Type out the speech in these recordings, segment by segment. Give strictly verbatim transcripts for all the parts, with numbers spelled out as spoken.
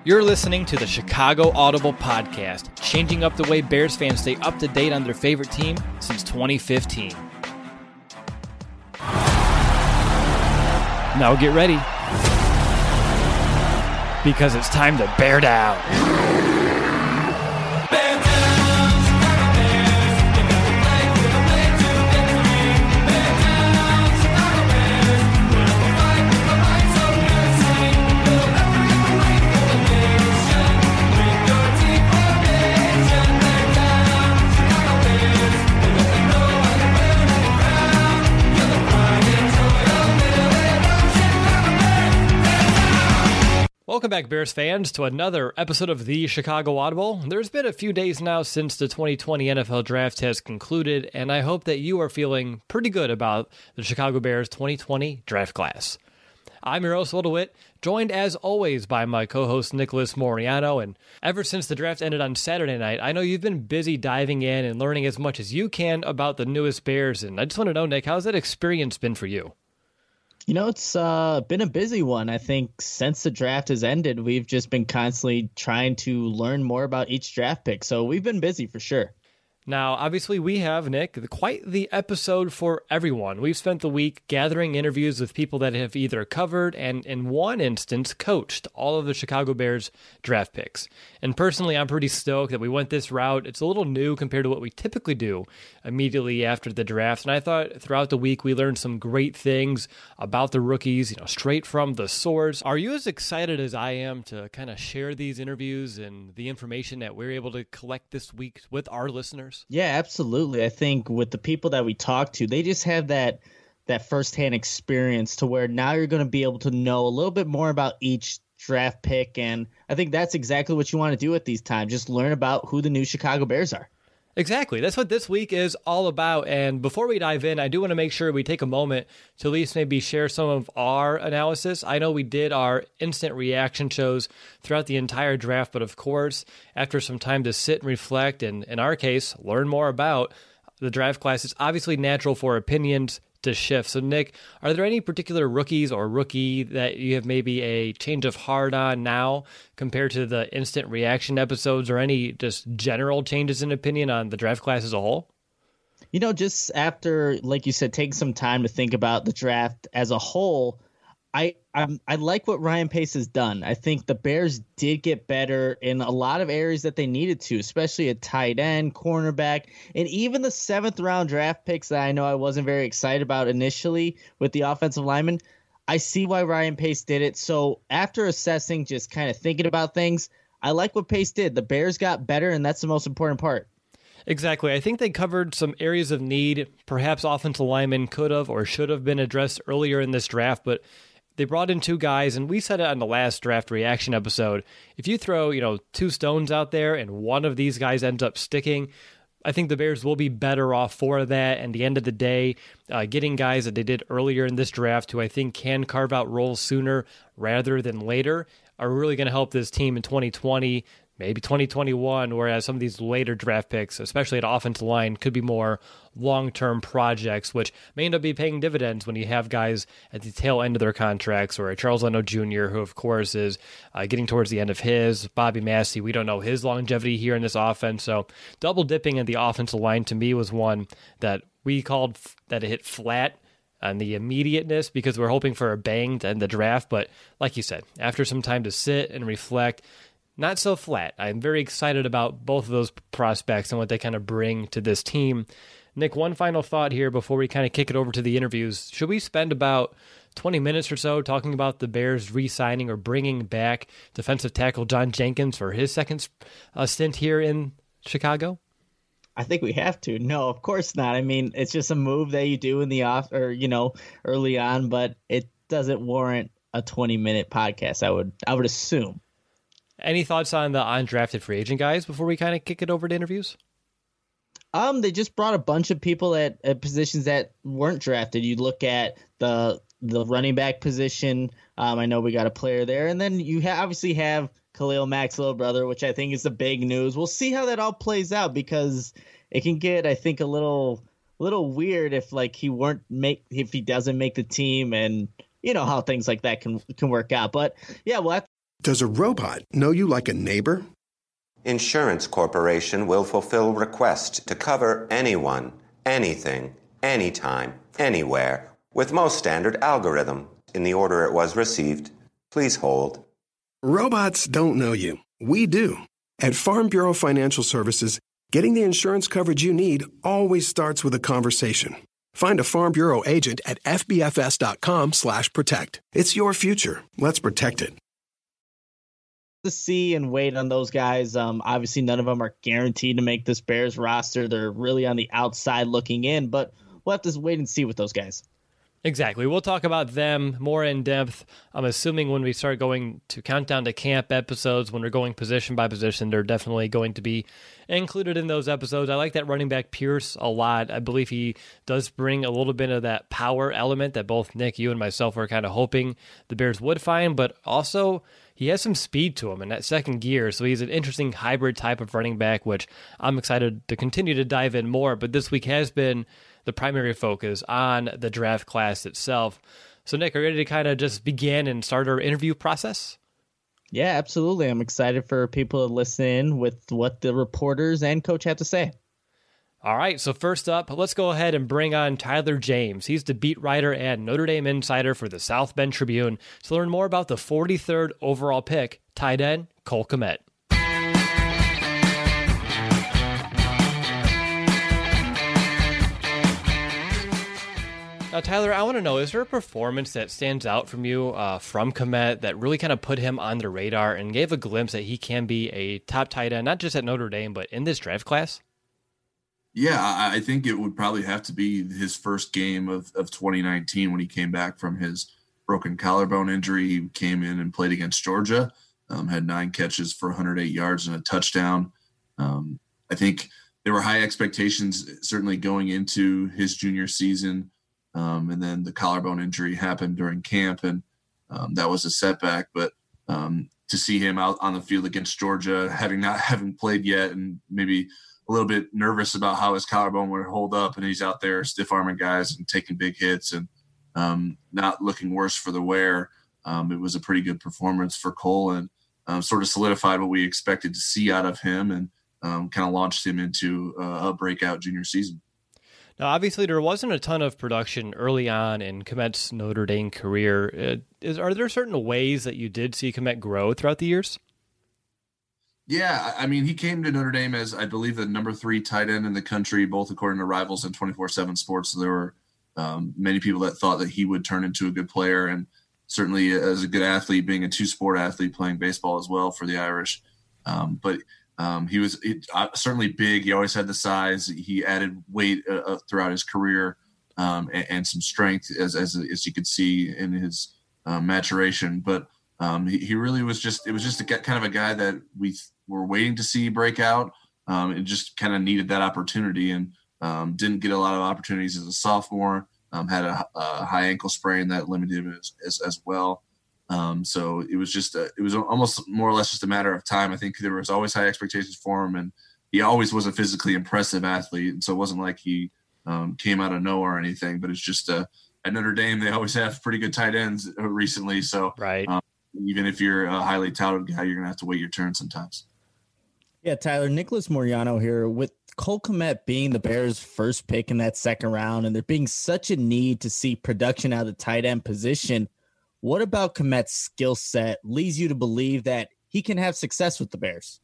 You're listening to the Chicago Audible Podcast, changing up the way Bears fans stay up to date on their favorite team since twenty fifteen. Now get ready, because it's time to bear down. Welcome back, Bears fans, to another episode of the Chicago Audible. There's been a few days now since the twenty twenty N F L Draft has concluded, and I hope that you are feeling pretty good about the Chicago Bears twenty twenty draft class. I'm your host, Will DeWitt, joined as always by my co-host Nicholas Moriano, and ever since the draft ended on Saturday night, I know you've been busy diving in and learning as much as you can about the newest Bears, and I just want to know, Nick, how's that experience been for you? You know, it's uh, been a busy one. I think since the draft has ended, we've just been constantly trying to learn more about each draft pick. So we've been busy for sure. Now, obviously, we have, Nick, quite the episode for everyone. We've spent the week gathering interviews with people that have either covered and, in one instance, coached all of the Chicago Bears draft picks. And personally, I'm pretty stoked that we went this route. It's a little new compared to what we typically do immediately after the draft. And I thought throughout the week, we learned some great things about the rookies, you know, straight from the source. Are you as excited as I am to kind of share these interviews and the information that we're able to collect this week with our listeners? Yeah, absolutely. I think with the people that we talk to, they just have that that firsthand experience to where now you're going to be able to know a little bit more about each draft pick. And I think that's exactly what you want to do at these times. Just learn about who the new Chicago Bears are. Exactly. That's what this week is all about. And before we dive in, I do want to make sure we take a moment to at least maybe share some of our analysis. I know we did our instant reaction shows throughout the entire draft, but of course, after some time to sit and reflect, and in our case, learn more about the draft class, it's obviously natural for opinions to shift. So, Nick, are there any particular rookies or rookie that you have maybe a change of heart on now compared to the instant reaction episodes, or any just general changes in opinion on the draft class as a whole? You know, just after, like you said, taking some time to think about the draft as a whole, I I'm, I like what Ryan Pace has done. I think the Bears did get better in a lot of areas that they needed to, especially at tight end, cornerback, and even the seventh round draft picks that I know I wasn't very excited about initially with the offensive lineman. I see why Ryan Pace did it. So after assessing, just kind of thinking about things, I like what Pace did. The Bears got better, and that's the most important part. Exactly. I think they covered some areas of need. Perhaps offensive linemen could have or should have been addressed earlier in this draft, but they brought in two guys, and we said it on the last draft reaction episode. If you throw, you know, two stones out there and one of these guys ends up sticking, I think the Bears will be better off for that. And at the end of the day, uh, getting guys that they did earlier in this draft who I think can carve out roles sooner rather than later are really going to help this team in twenty twenty, maybe twenty twenty-one, whereas some of these later draft picks, especially at offensive line, could be more long-term projects, which may end up be paying dividends when you have guys at the tail end of their contracts, or Charles Leno Junior, who, of course, is uh, getting towards the end of his. Bobby Massey, we don't know his longevity here in this offense, so double-dipping at the offensive line to me was one that we called f- that it hit flat on the immediateness because we're hoping for a bang to end the draft, but like you said, after some time to sit and reflect, not so flat. I'm very excited about both of those prospects and what they kind of bring to this team. Nick, one final thought here before we kind of kick it over to the interviews. Should we spend about twenty minutes or so talking about the Bears re-signing or bringing back defensive tackle John Jenkins for his second uh, stint here in Chicago? I think we have to. No, of course not. I mean, it's just a move that you do in the off or, you know, early on, but it doesn't warrant a twenty minute podcast. I would, I would assume. Any thoughts on the undrafted free agent guys before we kind of kick it over to interviews? Um, they just brought a bunch of people at, at positions that weren't drafted. You look at the the running back position. Um, I know we got a player there, and then you ha- obviously have Khalil Mack's little brother, which I think is the big news. We'll see how that all plays out because it can get, I think, a little little weird if like he weren't make if he doesn't make the team, and you know how things like that can can work out. But yeah, we'll have Does a robot know you like a neighbor? Insurance Corporation will fulfill request to cover anyone, anything, anytime, anywhere, with most standard algorithm in the order it was received. Please hold. Robots don't know you. We do. At Farm Bureau Financial Services, getting the insurance coverage you need always starts with a conversation. Find a Farm Bureau agent at fbfs.com slash protect. It's your future. Let's protect it. To see and wait on those guys. Um, obviously, none of them are guaranteed to make this Bears roster. They're really on the outside looking in, but we'll have to wait and see with those guys. Exactly. We'll talk about them more in depth. I'm assuming when we start going to countdown to camp episodes, when we're going position by position, they're definitely going to be included in those episodes. I like that running back Pierce a lot. I believe he does bring a little bit of that power element that both Nick, you, and myself were kind of hoping the Bears would find, but also he has some speed to him in that second gear, so he's an interesting hybrid type of running back, which I'm excited to continue to dive in more. But this week has been the primary focus on the draft class itself. So, Nick, are you ready to kind of just begin and start our interview process? Yeah, absolutely. I'm excited for people to listen in with what the reporters and coach have to say. All right, so first up, let's go ahead and bring on Tyler James. He's the beat writer and Notre Dame insider for the South Bend Tribune. To learn more about the forty-third overall pick, tight end Cole Kmet. Now, Tyler, I want to know, is there a performance that stands out from you uh, from Kmet that really kind of put him on the radar and gave a glimpse that he can be a top tight end, not just at Notre Dame, but in this draft class? Yeah, I think it would probably have to be his first game of, of twenty nineteen when he came back from his broken collarbone injury. He came in and played against Georgia, um, had nine catches for one hundred eight yards and a touchdown. Um, I think there were high expectations certainly going into his junior season, um, and then the collarbone injury happened during camp, and um, that was a setback. But um, to see him out on the field against Georgia, having not having played yet, and maybe a little bit nervous about how his collarbone would hold up, and he's out there stiff-arming guys and taking big hits and um, not looking worse for the wear. Um, it was a pretty good performance for Cole, and um, sort of solidified what we expected to see out of him, and um, kind of launched him into uh, a breakout junior season. Now, obviously, there wasn't a ton of production early on in Kmet's Notre Dame career. Uh, is, are there certain ways that you did see Kmet grow throughout the years? Yeah, I mean, he came to Notre Dame as, I believe, the number three tight end in the country, both according to Rivals and twenty-four seven Sports. So there were um, many people that thought that he would turn into a good player, and certainly as a good athlete, being a two-sport athlete, playing baseball as well for the Irish. Um, but um, he was it, uh, certainly big. He always had the size. He added weight uh, throughout his career um, and, and some strength, as, as as you could see in his uh, maturation. But um, he, he really was just – it was just a, kind of a guy that we – were waiting to see break out, um, and just kind of needed that opportunity, and um, didn't get a lot of opportunities as a sophomore. Um, had a, a high ankle sprain that limited him as, as, as well. Um, so it was just a, it was almost more or less just a matter of time. I think there was always high expectations for him, and he always was a physically impressive athlete. And so it wasn't like he um, came out of nowhere or anything. But it's just uh, at Notre Dame they always have pretty good tight ends recently. So right. Um, even if you're a highly touted guy, you're gonna have to wait your turn sometimes. Yeah, Tyler, Nicholas Moriano here. With Cole Kmet being the Bears' first pick in that second round, and there being such a need to see production out of the tight end position, what about Kmet's skill set leads you to believe that he can have success with the Bears?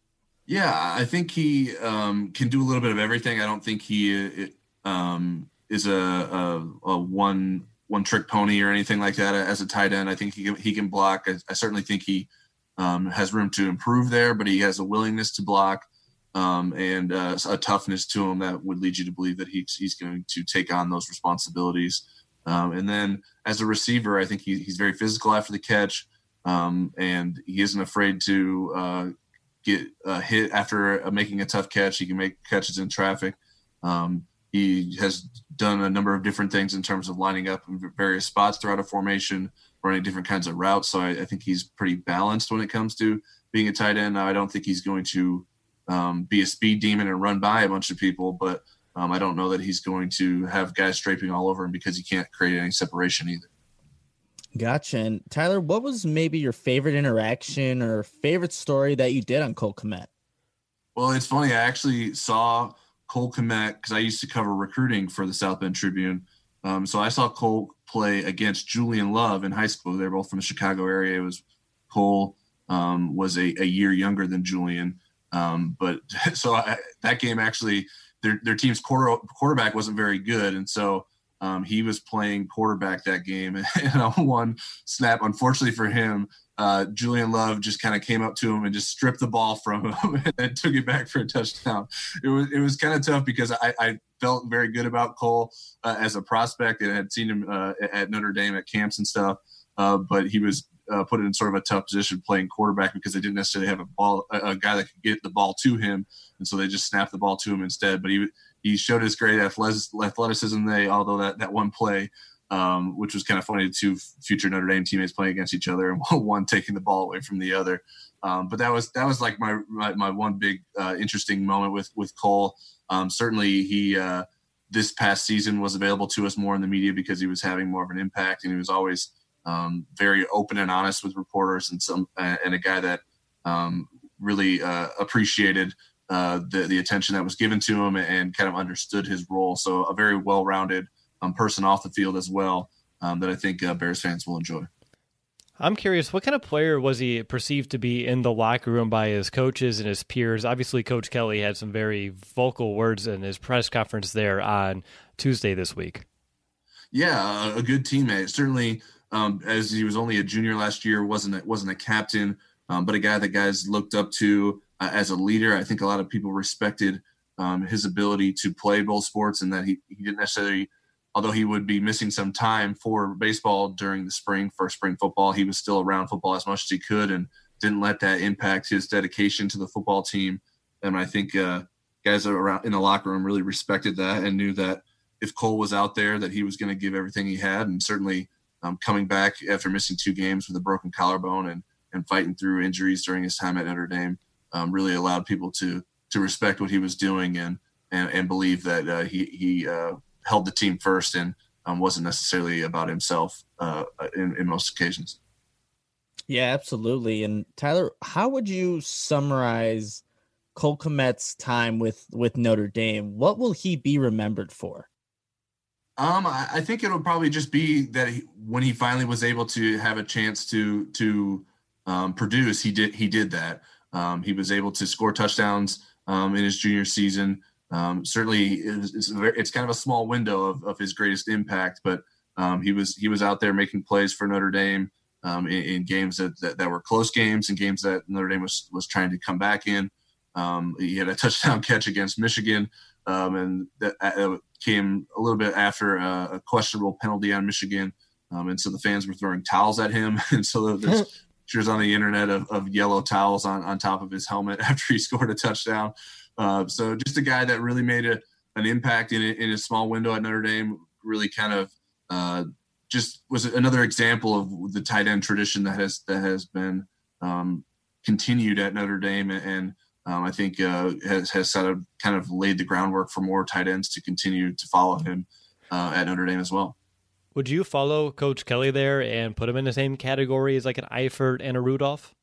Yeah, I think he um, can do a little bit of everything. I don't think he um, is a, a, a one one trick pony or anything like that as a tight end. I think he can, he can block. I, I certainly think he Um, has room to improve there, but he has a willingness to block um, and uh, a toughness to him that would lead you to believe that he's, he's going to take on those responsibilities. Um, and then as a receiver, I think he, he's very physical after the catch, um, and he isn't afraid to uh, get a hit after uh, making a tough catch. He can make catches in traffic. Um, he has done a number of different things in terms of lining up in various spots throughout a formation, running different kinds of routes. So I, I think he's pretty balanced when it comes to being a tight end. Now, I don't think he's going to um, be a speed demon and run by a bunch of people, but um, I don't know that he's going to have guys draping all over him because he can't create any separation either. Gotcha. And Tyler, what was maybe your favorite interaction or favorite story that you did on Cole Kmet? Well, it's funny. I actually saw Cole Kmet because I used to cover recruiting for the South Bend Tribune. Um, so I saw Cole play against Julian Love in high school. They're both from the Chicago area. It was Cole um, was a, a year younger than Julian. Um, but so I, that game actually, their, their team's quarter, quarterback wasn't very good. And so um, he was playing quarterback that game. And on one snap, unfortunately for him, uh, Julian Love just kind of came up to him and just stripped the ball from him and then took it back for a touchdown. It was, it was kind of tough because I, I felt very good about Cole uh, as a prospect and had seen him uh, at Notre Dame at camps and stuff. Uh, but he was uh, put in sort of a tough position playing quarterback because they didn't necessarily have a ball, a, a guy that could get the ball to him. And so they just snapped the ball to him instead. But he, he showed his great athleticism there, although that, that one play, um, which was kind of funny, the two future Notre Dame teammates playing against each other and one taking the ball away from the other. Um, but that was, that was like my, my, my one big uh, interesting moment with, with Cole. Um, certainly he, uh, this past season was available to us more in the media because he was having more of an impact, and he was always um, very open and honest with reporters, and some, uh, and a guy that um, really uh, appreciated uh, the, the attention that was given to him and kind of understood his role. So a very well-rounded um, person off the field as well um, that I think uh, Bears fans will enjoy. I'm curious, what kind of player was he perceived to be in the locker room by his coaches and his peers? Obviously, Coach Kelly had some very vocal words in his press conference there on Tuesday this week. Yeah, a good teammate. Certainly, um, as he was only a junior last year, wasn't a, wasn't a captain, um, but a guy that guys looked up to uh, as a leader. I think a lot of people respected um, his ability to play both sports, and that he, he didn't necessarily – although he would be missing some time for baseball during the spring for spring football, he was still around football as much as he could and didn't let that impact his dedication to the football team. And I think uh, guys around in the locker room really respected that and knew that if Cole was out there, that he was going to give everything he had. And certainly um, coming back after missing two games with a broken collarbone and, and fighting through injuries during his time at Notre Dame um, really allowed people to to respect what he was doing and and, and believe that uh, he he uh, held the team first and um, wasn't necessarily about himself uh, in, in most occasions. Yeah, absolutely. And Tyler, how would you summarize Cole Kmet's time with, with Notre Dame? What will he be remembered for? Um, I, I think it'll probably just be that he, when he finally was able to have a chance to to um, produce, he did he did that. Um, he was able to score touchdowns um, in his junior season. Um, certainly, it's, it's, very, it's kind of a small window of, of his greatest impact, but um, he was he was out there making plays for Notre Dame um, in, in games that, that that were close games and games that Notre Dame was was trying to come back in. Um, he had a touchdown catch against Michigan, um, and that uh, came a little bit after a, a questionable penalty on Michigan, um, and so the fans were throwing towels at him, and so there's pictures on the internet of, of yellow towels on, on top of his helmet after he scored a touchdown. Uh, so just a guy that really made a, an impact in a, in a small window at Notre Dame, really kind of uh, just was another example of the tight end tradition that has that has been um, continued at Notre Dame, and um, I think uh, has has sort of kind of laid the groundwork for more tight ends to continue to follow him uh, at Notre Dame as well. Would you follow Coach Kelly there and put him in the same category as like an Eifert and a Rudolph?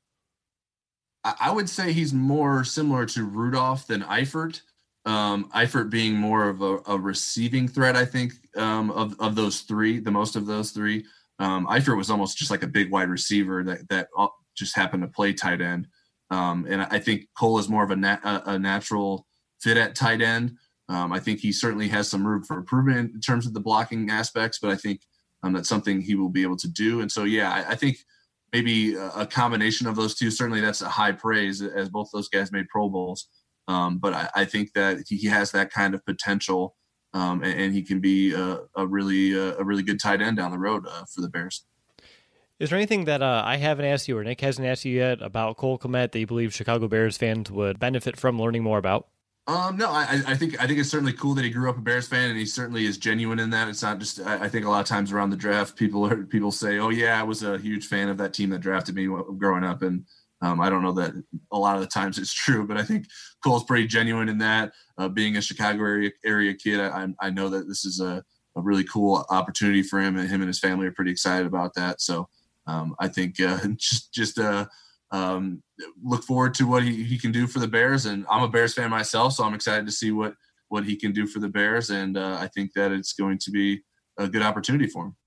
I would say he's more similar to Rudolph than Eifert. Um, Eifert being more of a, a receiving threat, I think, um, of, of those three, the most of those three. Um, Eifert was almost just like a big wide receiver that, that just happened to play tight end. Um, and I think Cole is more of a, nat- a natural fit at tight end. Um, I think he certainly has some room for improvement in terms of the blocking aspects, but I think um, that's something he will be able to do. And so, yeah, I, I think maybe a combination of those two. Certainly that's a high praise, as both those guys made Pro Bowls. Um, but I, I think that he has that kind of potential, um, and, and he can be a, a really a really good tight end down the road uh, for the Bears. Is there anything that uh, I haven't asked you or Nick hasn't asked you yet about Cole Kmet that you believe Chicago Bears fans would benefit from learning more about? Um, no, I, I think I think it's certainly cool that he grew up a Bears fan, and he certainly is genuine in that. It's not just. I, I think a lot of times around the draft, people are, people say, "Oh yeah, I was a huge fan of that team that drafted me growing up," and um, I don't know that a lot of the times it's true, but I think Cole's pretty genuine in that. Uh, being a Chicago area area kid, I I know that this is a a really cool opportunity for him, and him and his family are pretty excited about that. So um, I think uh, just just uh, um, look forward to what he, he can do for the Bears. And I'm a Bears fan myself, so I'm excited to see what what he can do for the Bears. And uh, I think that it's going to be a good opportunity for him.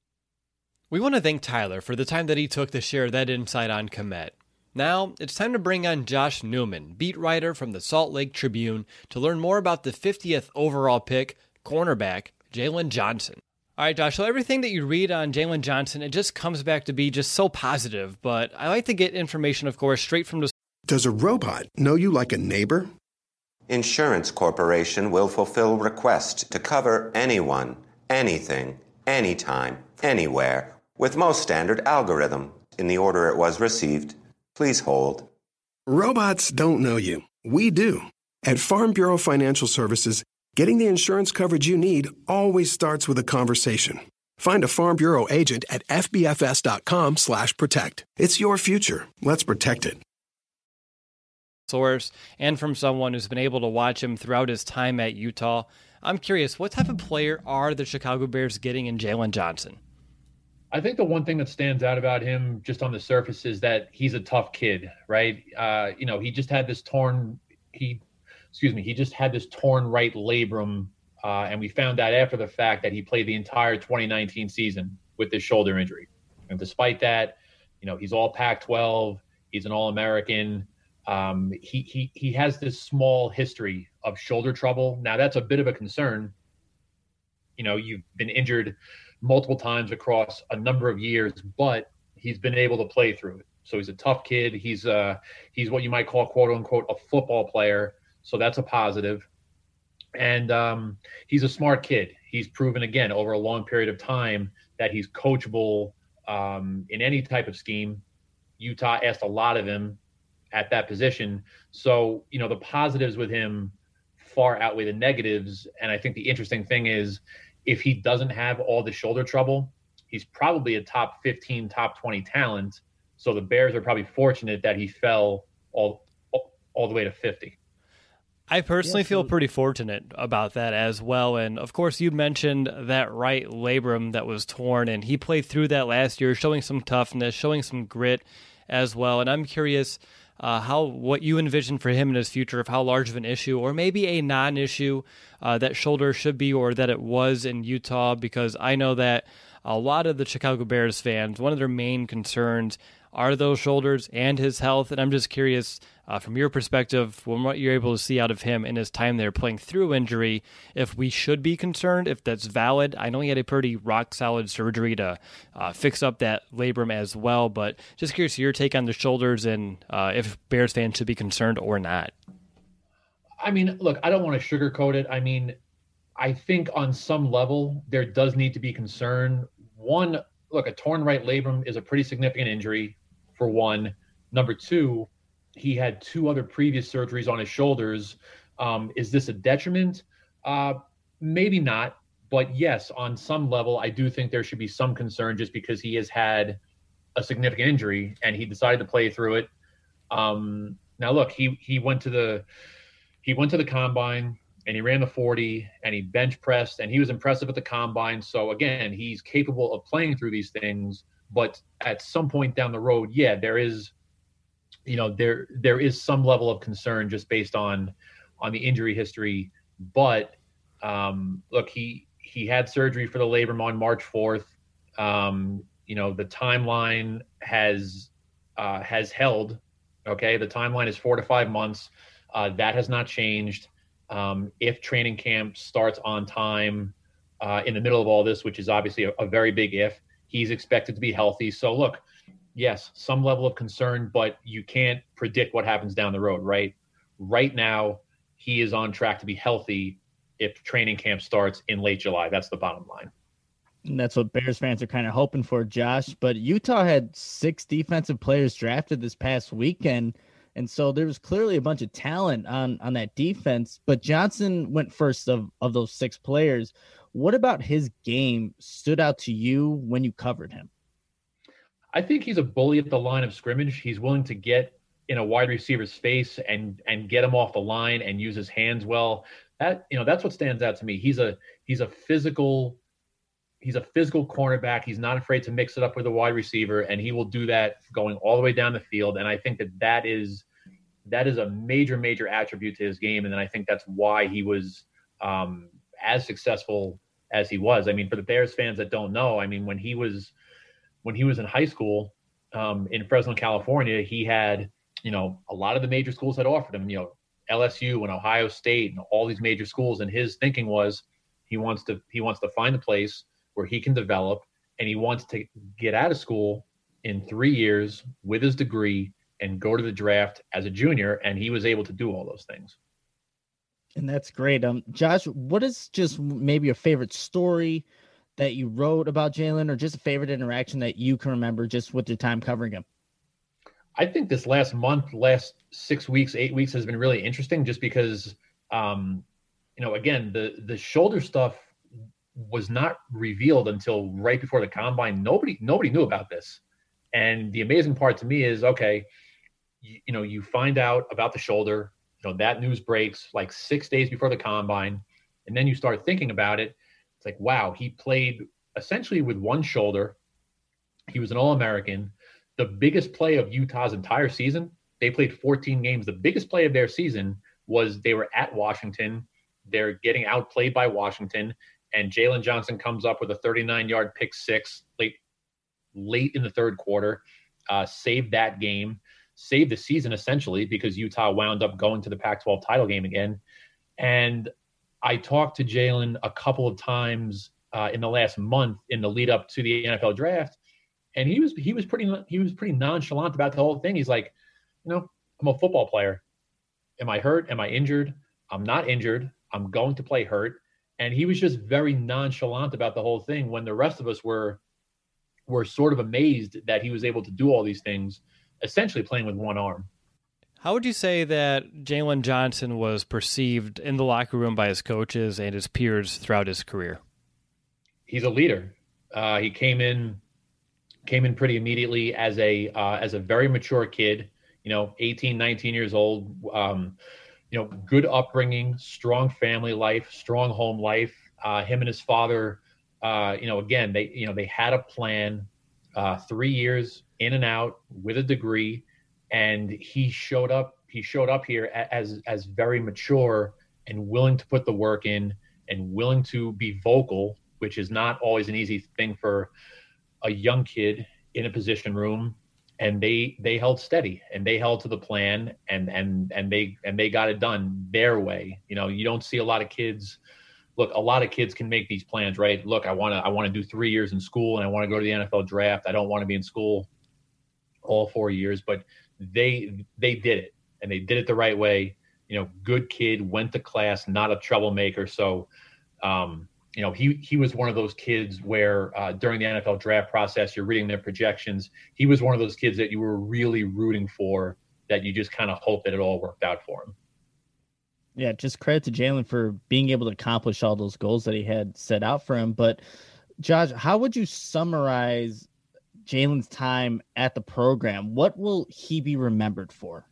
We want to thank Tyler for the time that he took to share that insight on Kmet. Now, it's time to bring on Josh Newman, beat writer from the Salt Lake Tribune, to learn more about the fiftieth overall pick, cornerback, Jaylon Johnson. All right, Josh, so everything that you read on Jaylon Johnson, it just comes back to be just so positive, but I like to get information, of course, straight from the... Does a robot know you like a neighbor? Insurance Corporation will fulfill request to cover anyone, anything, anytime, anywhere, with most standard algorithm in the order it was received. Please hold. Robots don't know you. We do. At Farm Bureau Financial Services, getting the insurance coverage you need always starts with a conversation. Find a Farm Bureau agent at fbfs.com slash protect. It's your future. Let's protect it. Source and from someone who's been able to watch him throughout his time at Utah. I'm curious, what type of player are the Chicago Bears getting in Jaylon Johnson? I think the one thing that stands out about him just on the surface is that he's a tough kid, right? Uh, you know, he just had this torn, he, excuse me, he just had this torn right labrum. Uh, and we found out after the fact that he played the entire twenty nineteen season with this shoulder injury. And despite that, you know, he's all Pac twelve. He's an All-American. Um, he, he, he has this small history of shoulder trouble. Now that's a bit of a concern. You know, you've been injured multiple times across a number of years, but he's been able to play through it. So he's a tough kid. He's uh he's what you might call, quote unquote, a football player. So that's a positive. And um, he's a smart kid. He's proven again over a long period of time that he's coachable um, in any type of scheme. Utah asked a lot of him at that position. So, you know, the positives with him far outweigh the negatives. And I think the interesting thing is, if he doesn't have all the shoulder trouble, he's probably a top fifteen, top twenty talent. So the Bears are probably fortunate that he fell all all the way to fifty. I personally yeah, feel pretty fortunate about that as well. And of course, you mentioned that right labrum that was torn, and he played through that last year, showing some toughness, showing some grit as well. And I'm curious Uh, how what you envision for him in his future, of how large of an issue or maybe a non-issue uh, that shoulder should be, or that it was in Utah, because I know that a lot of the Chicago Bears fans, one of their main concerns are those shoulders and his health. And I'm just curious, uh, from your perspective, from what you're able to see out of him in his time there playing through injury, if we should be concerned, if that's valid. I know he had a pretty rock-solid surgery to uh, fix up that labrum as well, but just curious your take on the shoulders and uh, if Bears fans should be concerned or not. I mean, look, I don't want to sugarcoat it. I mean, I think on some level there does need to be concern. One, look, a torn right labrum is a pretty significant injury, for one. Number two, he had two other previous surgeries on his shoulders. Um, is this a detriment? Uh, maybe not. But yes, on some level, I do think there should be some concern just because he has had a significant injury and he decided to play through it. Um, now, look, he he went to the he went to the combine and he ran the forty and he bench pressed and he was impressive at the combine. So again, he's capable of playing through these things. But at some point down the road, yeah, there is, you know, there there is some level of concern just based on on the injury history. But um, look, he he had surgery for the labrum on March fourth. Um, you know, the timeline has uh, has held. Okay, the timeline is four to five months. Uh, that has not changed. Um, if training camp starts on time uh, in the middle of all this, which is obviously a, a very big if, he's expected to be healthy. So look, yes, some level of concern, but you can't predict what happens down the road, right? Right now, he is on track to be healthy if training camp starts in late July. That's the bottom line. And that's what Bears fans are kind of hoping for, Josh. But Utah had six defensive players drafted this past weekend. And so there was clearly a bunch of talent on, on that defense, but Johnson went first of, of those six players. What about his game stood out to you when you covered him? I think he's a bully at the line of scrimmage. He's willing to get in a wide receiver's face and, and get him off the line and use his hands well. That, you know, that's what stands out to me. He's a, he's a physical he's a physical cornerback. He's not afraid to mix it up with a wide receiver, and he will do that going all the way down the field. And I think that that is that is a major, major attribute to his game. And then I think that's why he was um, as successful as he was. I mean, for the Bears fans that don't know, I mean, when he was when he was in high school um, in Fresno, California, he had, you know, a lot of the major schools had offered him, you know, L S U and Ohio State and all these major schools. And his thinking was he wants to he wants to find a place where he can develop, and he wants to get out of school in three years with his degree and go to the draft as a junior. And he was able to do all those things. And that's great. Um, Josh, what is just maybe your favorite story that you wrote about Jalen, or just a favorite interaction that you can remember just with your time covering him? I think this last month, last six weeks, eight weeks has been really interesting just because, um, you know, again, the, the shoulder stuff was not revealed until right before the combine. Nobody, nobody knew about this. And the amazing part to me is, okay, you, you know, you find out about the shoulder, you know, that news breaks like six days before the combine. And then you start thinking about it. It's like, wow, he played essentially with one shoulder. He was an All-American. The biggest play of Utah's entire season, they played fourteen games. The biggest play of their season was they were at Washington. They're getting outplayed by Washington. And Jalen Johnson comes up with a thirty-nine-yard pick six late, late in the third quarter, uh, saved that game, saved the season essentially because Utah wound up going to the Pac twelve title game again. And I talked to Jalen a couple of times uh, in the last month in the lead up to the N F L draft, and he was he was pretty he was pretty nonchalant about the whole thing. He's like, you know, I'm a football player. Am I hurt? Am I injured? I'm not injured. I'm going to play hurt. And he was just very nonchalant about the whole thing when the rest of us were were sort of amazed that he was able to do all these things, essentially playing with one arm. How would you say that Jalen Johnson was perceived in the locker room by his coaches and his peers throughout his career? He's a leader. Uh, he came in came in pretty immediately as a uh, as a very mature kid, you know, eighteen, nineteen years old. Um, you know, good upbringing, strong family life, strong home life. Uh, him and his father, uh, you know, again, they, you know, they had a plan, uh, three years in and out with a degree. And he showed up, he showed up here as, as very mature and willing to put the work in and willing to be vocal, which is not always an easy thing for a young kid in a position room. And they they held steady and they held to the plan and and and they and they got it done their way. You know, you don't see a lot of kids. Look, a lot of kids can make these plans, right? Look, I want to I want to do three years in school and I want to go to the N F L draft. I don't want to be in school all four years, but they they did it and they did it the right way. You know, good kid, went to class, not a troublemaker. So, um, you know, he he was one of those kids where uh, during the N F L draft process, you're reading their projections. He was one of those kids that you were really rooting for, that you just kind of hope that it all worked out for him. Yeah, just credit to Jalen for being able to accomplish all those goals that he had set out for him. But, Josh, how would you summarize Jalen's time at the program? What will he be remembered for?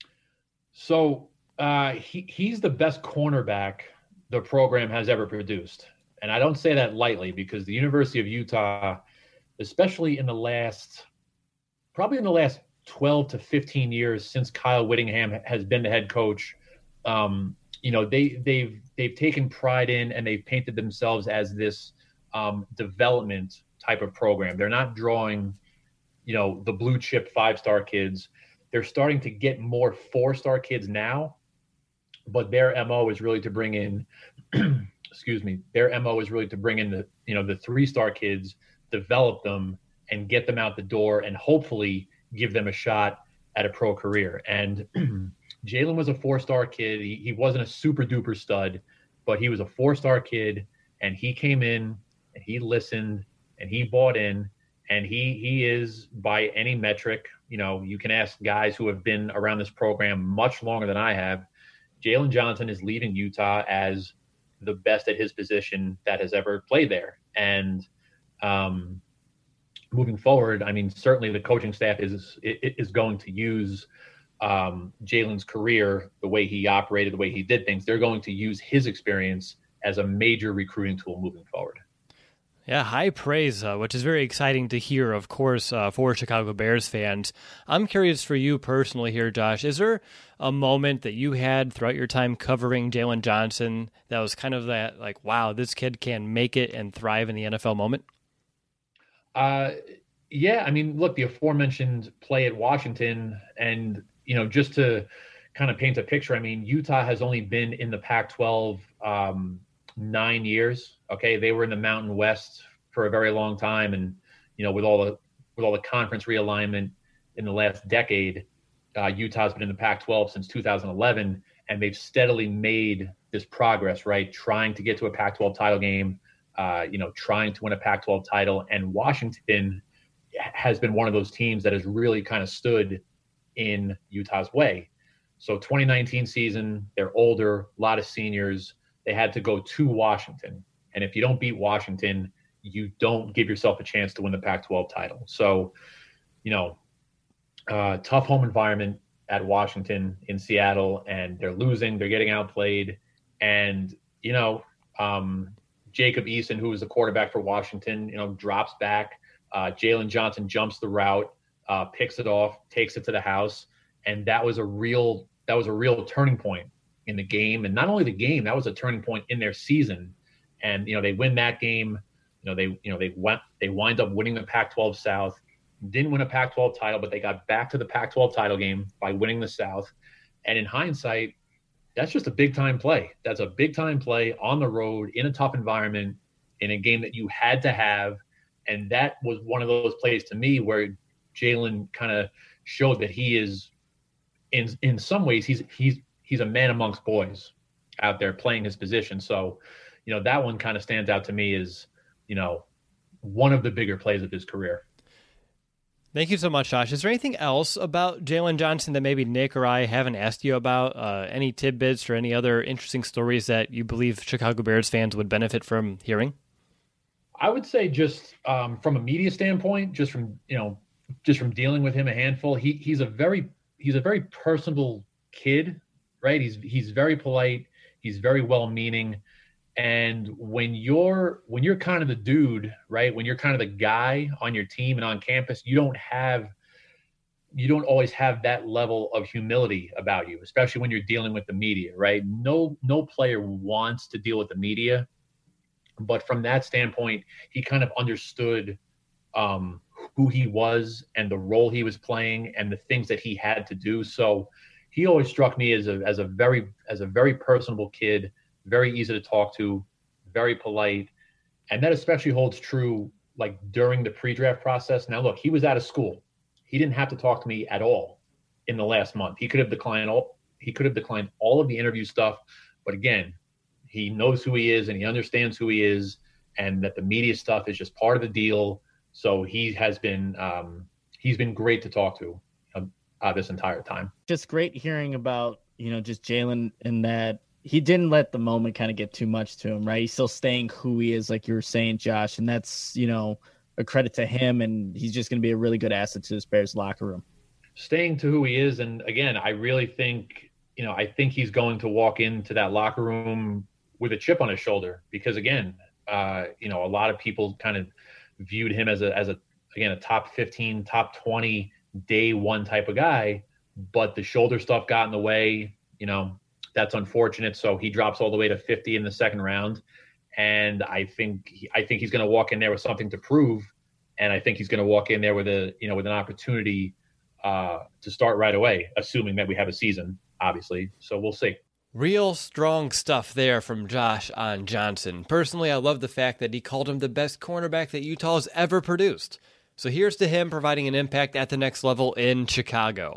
So uh, he he's the best cornerback the program has ever produced. And I don't say that lightly because the University of Utah, especially in the last, probably in the last twelve to fifteen years since Kyle Whittingham has been the head coach, um, you know, they, they've they've taken pride in and they've painted themselves as this um, development type of program. They're not drawing, you know, the blue chip five-star kids. They're starting to get more four-star kids now, but their M O is really to bring in excuse me, their M O is really to bring in the, you know, the three-star kids, develop them and get them out the door and hopefully give them a shot at a pro career. And Jalen was a four-star kid. He, he wasn't a super duper stud, but he was a four-star kid and he came in and he listened and he bought in and he, he is by any metric, you know, you can ask guys who have been around this program much longer than I have. Jalen Johnson is leaving Utah as the best at his position that has ever played there. And um, moving forward, I mean, certainly the coaching staff is is going to use um, Jalen's career, the way he operated, the way he did things. They're going to use his experience as a major recruiting tool moving forward. Yeah, high praise, uh, which is very exciting to hear, of course, uh, for Chicago Bears fans. I'm curious for you personally here, Josh. Is there a moment that you had throughout your time covering Jaylon Johnson that was kind of that, like, wow, this kid can make it and thrive in the N F L moment? Uh, yeah, I mean, look, the aforementioned play at Washington, and, you know, just to kind of paint a picture, I mean, Utah has only been in the Pac twelve um, nine years. Okay, they were in the Mountain West for a very long time, and you know, with all the with all the conference realignment in the last decade, uh, Utah's been in the Pac twelve since two thousand eleven, and they've steadily made this progress, right? Trying to get to a Pac twelve title game, uh, you know, trying to win a Pac twelve title, and Washington has been one of those teams that has really kind of stood in Utah's way. So twenty nineteen season, they're older, a lot of seniors. They had to go to Washington. And if you don't beat Washington, you don't give yourself a chance to win the Pac twelve title. So, you know, uh, tough home environment at Washington in Seattle, and they're losing, they're getting outplayed. And, you know, um, Jacob Eason, who was the quarterback for Washington, you know, drops back. Uh, Jaylon Johnson jumps the route, uh, picks it off, takes it to the house. And that was a real, that was a real turning point in the game. And not only the game, that was a turning point in their season. And, you know, they win that game. You know, they, you know, they went, they wind up winning the Pac twelve South, didn't win a Pac twelve title, but they got back to the Pac twelve title game by winning the South. And in hindsight, that's just a big time play. That's a big time play on the road in a tough environment in a game that you had to have. And that was one of those plays to me where Jaylon kind of showed that he is in, in some ways, he's, he's, he's a man amongst boys out there playing his position. So, you know, that one kind of stands out to me as, you know, one of the bigger plays of his career. Thank you so much, Josh. Is there anything else about Jaylon Johnson that maybe Nick or I haven't asked you about? Uh, any tidbits or any other interesting stories that you believe Chicago Bears fans would benefit from hearing? I would say just um, from a media standpoint, just from, you know, just from dealing with him a handful, he he's a very, he's a very personable kid, right? He's, he's very polite. He's very well-meaning. And when you're when you're kind of the dude, right, when you're kind of the guy on your team and on campus, you don't have you don't always have that level of humility about you, especially when you're dealing with the media, right? No no player wants to deal with the media, but from that standpoint, he kind of understood um, who he was and the role he was playing and the things that he had to do. So he always struck me as a as a very as a very personable kid. Very easy to talk to, very polite. And that especially holds true like during the pre-draft process. Now, look, he was out of school. He didn't have to talk to me at all in the last month. He could have declined all he could have declined all of the interview stuff. But again, he knows who he is and he understands who he is, and that the media stuff is just part of the deal. So he has been um, he's been great to talk to uh, this entire time. Just great hearing about, you know, just Jaylon and that he didn't let the moment kind of get too much to him, right? He's still staying who he is, like you were saying, Josh, and that's, you know, a credit to him, and he's just going to be a really good asset to this Bears locker room. Staying to who he is, and again, I really think, you know, I think he's going to walk into that locker room with a chip on his shoulder because, again, uh, you know, a lot of people kind of viewed him as a, as a, again, a top fifteen, top twenty, day one type of guy, but the shoulder stuff got in the way, you know. That's unfortunate. So he drops all the way to fifty in the second round. And I think, he, I think he's going to walk in there with something to prove. And I think he's going to walk in there with a, you know, with an opportunity uh, to start right away, assuming that we have a season, obviously. So we'll see. Real strong stuff there from Josh on Johnson. Personally, I love the fact that he called him the best cornerback that Utah has ever produced. So here's to him providing an impact at the next level in Chicago.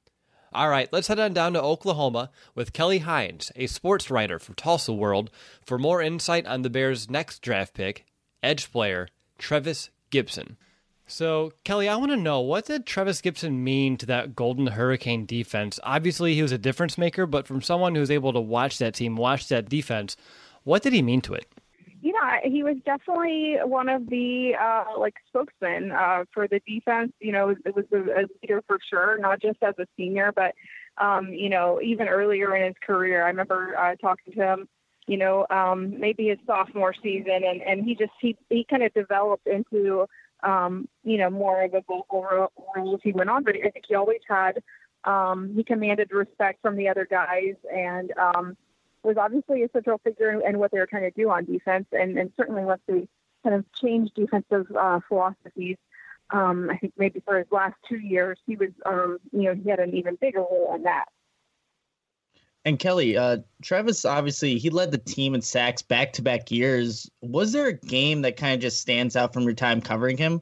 All right, let's head on down to Oklahoma with Kelly Hines, a sports writer for Tulsa World, for more insight on the Bears' next draft pick, edge player Trevis Gipson. So, Kelly, I want to know, what did Trevis Gipson mean to that Golden Hurricane defense? Obviously, he was a difference maker, but from someone who's able to watch that team, watch that defense, what did he mean to it? Yeah, he was definitely one of the uh, like spokesmen uh, for the defense. You know, it was a, a leader for sure, not just as a senior, but um, you know, even earlier in his career. I remember uh, talking to him you know, um, maybe his sophomore season, and, and he just he he kind of developed into um, you know, more of a vocal role as he went on. But I think he always had um, he commanded respect from the other guys, and um, was obviously a central figure in, in what they were trying to do on defense, and, and certainly once they kind of changed defensive uh, philosophies. Um, I think maybe for his last two years, he was, um, you know, he had an even bigger role in that. And Kelly, uh, Travis, obviously, he led the team in sacks back-to-back years. Was there a game that kind of just stands out from your time covering him?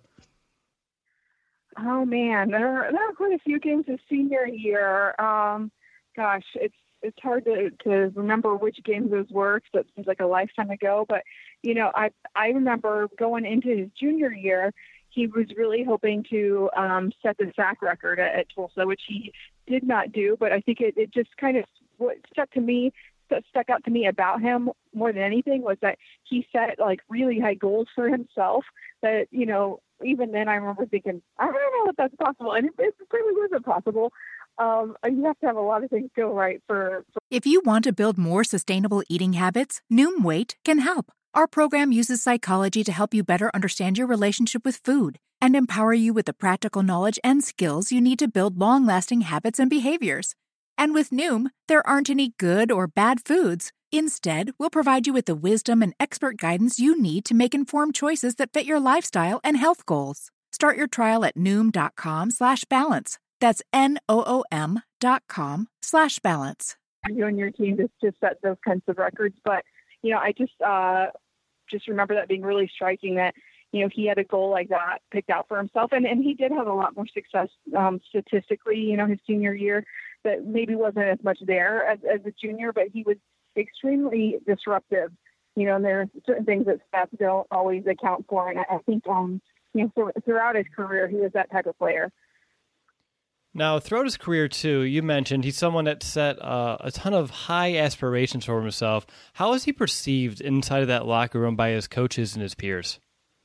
Oh, man, there, there are quite a few games his senior year. Um, gosh, it's it's hard to, to remember which games those were, because it seems like a lifetime ago. But, you know, I, I remember going into his junior year, he was really hoping to um, set the sack record at, at Tulsa, which he did not do. But I think it, it just kind of what stuck to me, that stuck out to me about him more than anything was that he set like really high goals for himself that, you know, even then I remember thinking, I don't know if that's possible. And it, it really wasn't possible. Um, you have to have a lot of things go right for, for. If you want to build more sustainable eating habits, Noom Weight can help. Our program uses psychology to help you better understand your relationship with food and empower you with the practical knowledge and skills you need to build long-lasting habits and behaviors. And with Noom, there aren't any good or bad foods. Instead, we'll provide you with the wisdom and expert guidance you need to make informed choices that fit your lifestyle and health goals. Start your trial at Noom.com slash balance. That's N-O-O-M dot com slash balance. You and your team just, just set those kinds of records. But, you know, I just uh, just remember that being really striking that, you know, he had a goal like that picked out for himself. And, and he did have a lot more success um, statistically, you know, his senior year that maybe wasn't as much there as, as a junior, but he was extremely disruptive, you know, and there are certain things that stats don't always account for. And I, I think, um, you know, so, throughout his career, he was that type of player. Now, throughout his career, too, you mentioned he's someone that set uh, a ton of high aspirations for himself. How is he perceived inside of that locker room by his coaches and his peers?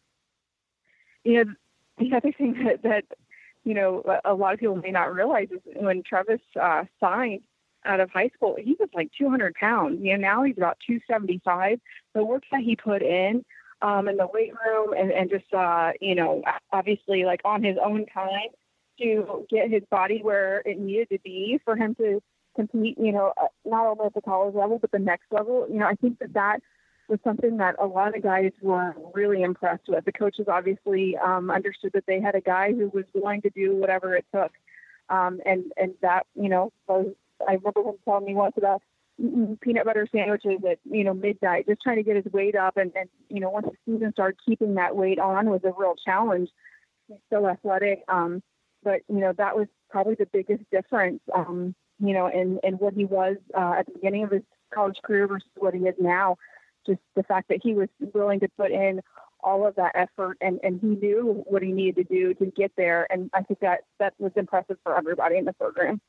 You know, the other thing that, that you know, a lot of people may not realize is when Travis uh, signed out of high school, he was like two hundred pounds. You know, now he's about two seventy-five. The work that he put in um, in the weight room and, and just, uh, you know, obviously like on his own time, to get his body where it needed to be for him to compete, you know, not only at the college level, but the next level. You know, I think that that was something that a lot of guys were really impressed with. The coaches obviously um, understood that they had a guy who was willing to do whatever it took. Um, and, and that, you know, was, I remember him telling me once about eating peanut butter sandwiches at, you know, midnight, just trying to get his weight up. And, and, you know, once the season started, keeping that weight on was a real challenge. He's so athletic. Um, But, you know, that was probably the biggest difference, um, you know, in, in what he was uh, at the beginning of his college career versus what he is now. Just the fact that he was willing to put in all of that effort and, and he knew what he needed to do to get there. And I think that that was impressive for everybody in the program.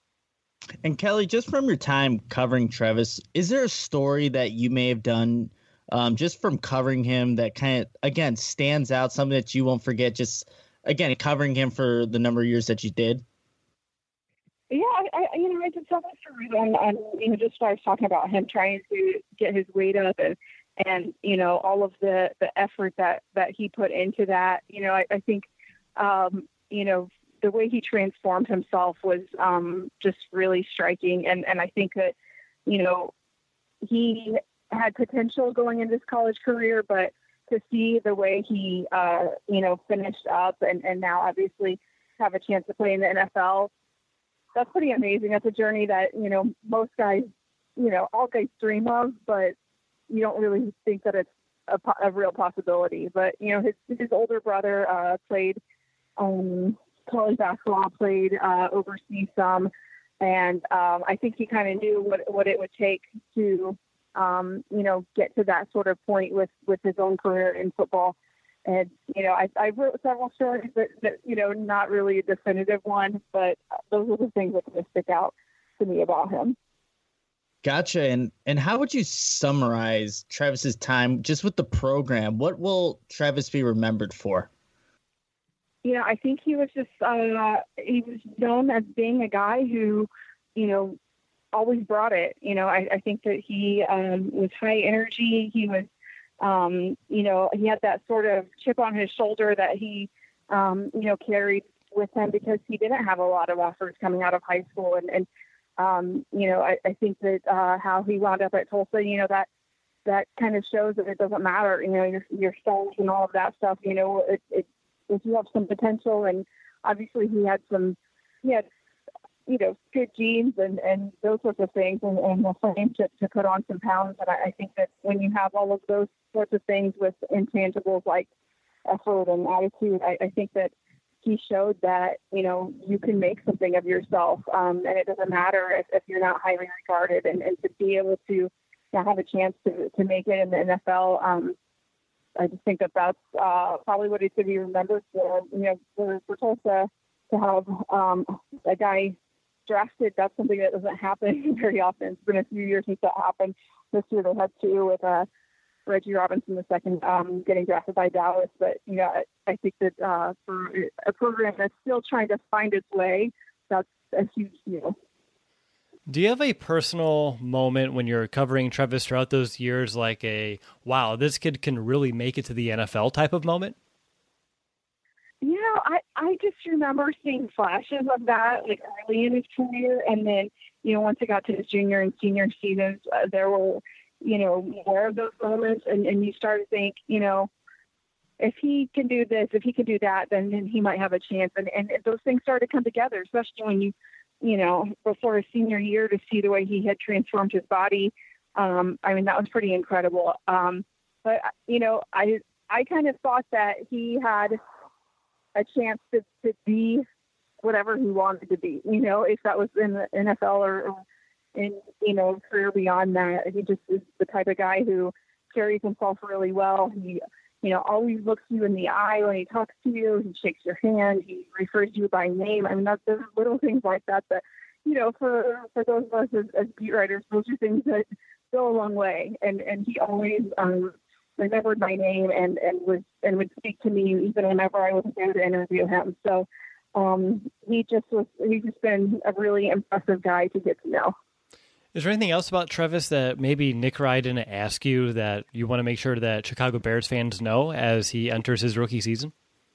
And Kelly, just from your time covering Travis, is there a story that you may have done um, just from covering him that kind of, again, stands out, something that you won't forget, just again, covering him for the number of years that you did? Yeah, I, I you know, I did so much on, on, you know, just started talking about him trying to get his weight up and, and, you know, all of the, the effort that, that he put into that. You know, I, I think, um, you know, the way he transformed himself was um, just really striking. And, and I think that, you know, he had potential going into his college career, but to see the way he, uh, you know, finished up and, and now obviously have a chance to play in the N F L, that's pretty amazing. That's a journey that, you know, most guys, you know, all guys dream of, but you don't really think that it's a, a real possibility. But, you know, his, his older brother uh, played um, college basketball, played uh, overseas some. And um, I think he kind of knew what, what it would take to, Um, you know, get to that sort of point with, with his own career in football. And, you know, I, I wrote several stories that, that, you know, not really a definitive one, but those are the things that kind of stick out to me about him. Gotcha. And, and how would you summarize Travis's time just with the program? What will Travis be remembered for? You know, I think he was just, uh, he was known as being a guy who, you know, always brought it. You know, I, I think that he um, was high energy. He was, um, you know, he had that sort of chip on his shoulder that he, um, you know, carried with him because he didn't have a lot of offers coming out of high school. And, and um, you know, I, I think that uh, how he wound up at Tulsa, you know, that that kind of shows that it doesn't matter, you know, your, your stars and all of that stuff, you know, it, it, if you have some potential, and obviously he had some, he had, you know, good genes and, and those sorts of things, and, and the frame to, to put on some pounds. And I, I think that when you have all of those sorts of things with intangibles like effort and attitude, I, I think that he showed that, you know, you can make something of yourself. Um, and it doesn't matter if, if you're not highly regarded, and, and to be able to, to have a chance to, to make it in the N F L. Um, I just think that that's uh, probably what it should be remembered for, you know, for, for Tulsa to have um, a guy drafted. That's something that doesn't happen very often. It's been a few years since that happened. This year they had two with uh, Reggie Robinson the second um, getting drafted by Dallas. But, you know, I, I think that uh, for a program that's still trying to find its way, that's a huge deal. Do you have a personal moment when you're covering Travis throughout those years, like a, wow, this kid can really make it to the N F L type of moment? You know, I, I just remember seeing flashes of that, like early in his career. And then, you know, once it got to his junior and senior seasons, uh, there were, you know, more of those moments. And, and you start to think, you know, if he can do this, if he can do that, then, then he might have a chance. And, and those things started to come together, especially when you, you know, before his senior year, to see the way he had transformed his body. Um, I mean, that was pretty incredible. Um, but, you know, I, I kind of thought that he had a chance to, to be whatever he wanted to be, you know, if that was in the N F L or, or in, you know, career beyond that. He just is the type of guy who carries himself really well. He, you know, always looks you in the eye when he talks to you. He shakes your hand. He refers to you by name. I mean, that's there's little things like that that, you know, for for those of us as, as beat writers, those are things that go a long way. And and he always um, remembered my name and and would and would speak to me even whenever I wasn't there to interview him. So um, he just was. He's just been a really impressive guy to get to know. Is there anything else about Travis that maybe Nick Rye didn't ask you that you want to make sure that Chicago Bears fans know as he enters his rookie season?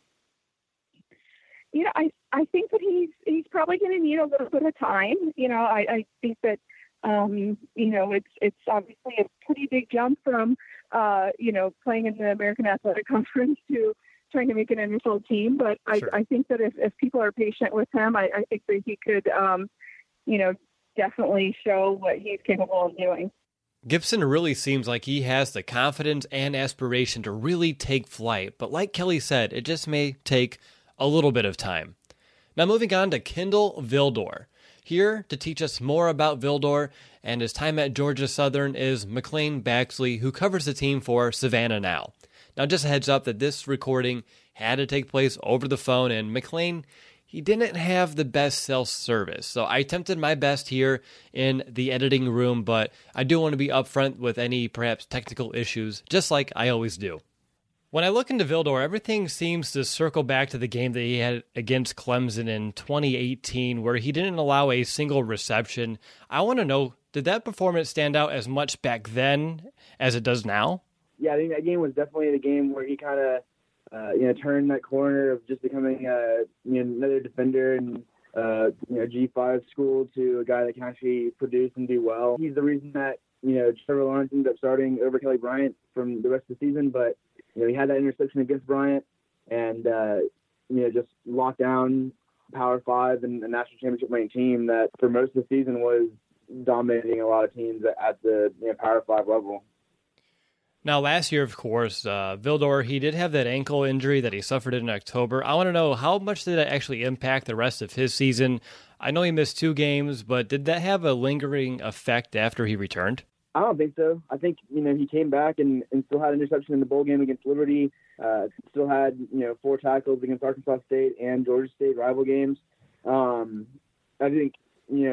You know, I, I think that he's he's probably going to need a little bit of time. You know, I, I think that, um, you know, it's it's obviously a pretty big jump from, uh, you know, playing in the American Athletic Conference to trying to make an N F L team. But I, sure. I think that if, if people are patient with him, I, I think that he could, um, you know, definitely show what he's capable of doing. Gibson really seems like he has the confidence and aspiration to really take flight, but like Kelly said, it just may take a little bit of time. Now moving on to Kindle Vildor. Here to teach us more about Vildor and his time at Georgia Southern is McLean Baxley, who covers the team for Savannah Now. Now just a heads up that this recording had to take place over the phone, and McLean, he didn't have the best cell service, so I attempted my best here in the editing room, but I do want to be upfront with any perhaps technical issues, just like I always do. When I look into Vildor, everything seems to circle back to the game that he had against Clemson in twenty eighteen, where he didn't allow a single reception. I want to know, did that performance stand out as much back then as it does now? Yeah, I think that game was definitely the game where he kind of Uh, you know, turn that corner of just becoming uh, you know, another defender and uh, you know, G five school to a guy that can actually produce and do well. He's the reason that, you know, Trevor Lawrence ended up starting over Kelly Bryant from the rest of the season. But, you know, he had that interception against Bryant and, uh, you know, just locked down Power Five and a national championship winning team that for most of the season was dominating a lot of teams at the, you know, Power Five level. Now, last year, of course, uh, Vildor, he did have that ankle injury that he suffered in October. I want to know, how much did that actually impact the rest of his season? I know he missed two games, but did that have a lingering effect after he returned? I don't think so. I think, you know, he came back and, and still had an interception in the bowl game against Liberty, uh, still had, you know, four tackles against Arkansas State and Georgia State rival games. Um, I think, you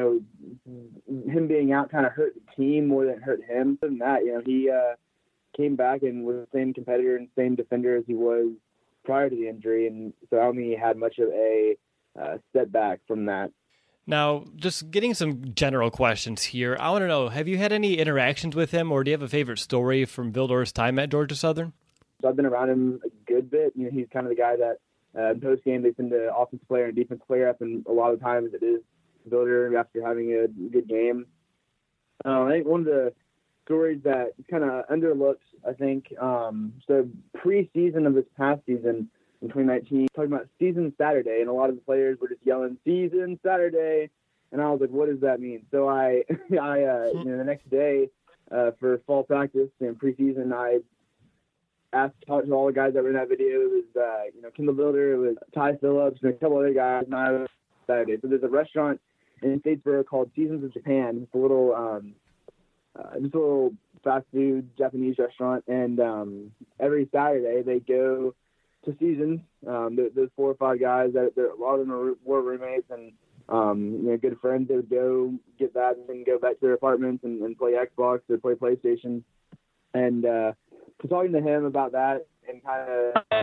know, him being out kind of hurt the team more than it hurt him. Other than that, you know, he uh, – came back and was the same competitor and same defender as he was prior to the injury, and so I don't think he had much of a uh, setback from that. Now, just getting some general questions here. I want to know, have you had any interactions with him, or do you have a favorite story from Vildor's time at Georgia Southern? So I've been around him a good bit. You know, he's kind of the guy that uh, in post game they send the offensive player and defensive player up, and a lot of times it is Vilder after having a good game. Uh, I think one of the stories that kind of underlooked, I think, um, so preseason of this past season in twenty nineteen, talking about season Saturday, and a lot of the players were just yelling season Saturday, and I was like, what does that mean? So I, I, uh, you know, the next day uh, for fall practice and preseason, I asked talked to all the guys that were in that video. It was, uh, you know, Kendall Vilder, it was Ty Phillips, and a couple other guys. And I was Saturday. So there's a restaurant in Statesboro called Seasons of Japan. It's a little, um, uh, just a little fast food Japanese restaurant, and um, every Saturday they go to Seasons. Um, there, there's four or five guys that a lot of them are, were roommates and um, you know, good friends. They would go get that and then go back to their apartments and, and play Xbox or play PlayStation. And uh, so talking to him about that and kind of,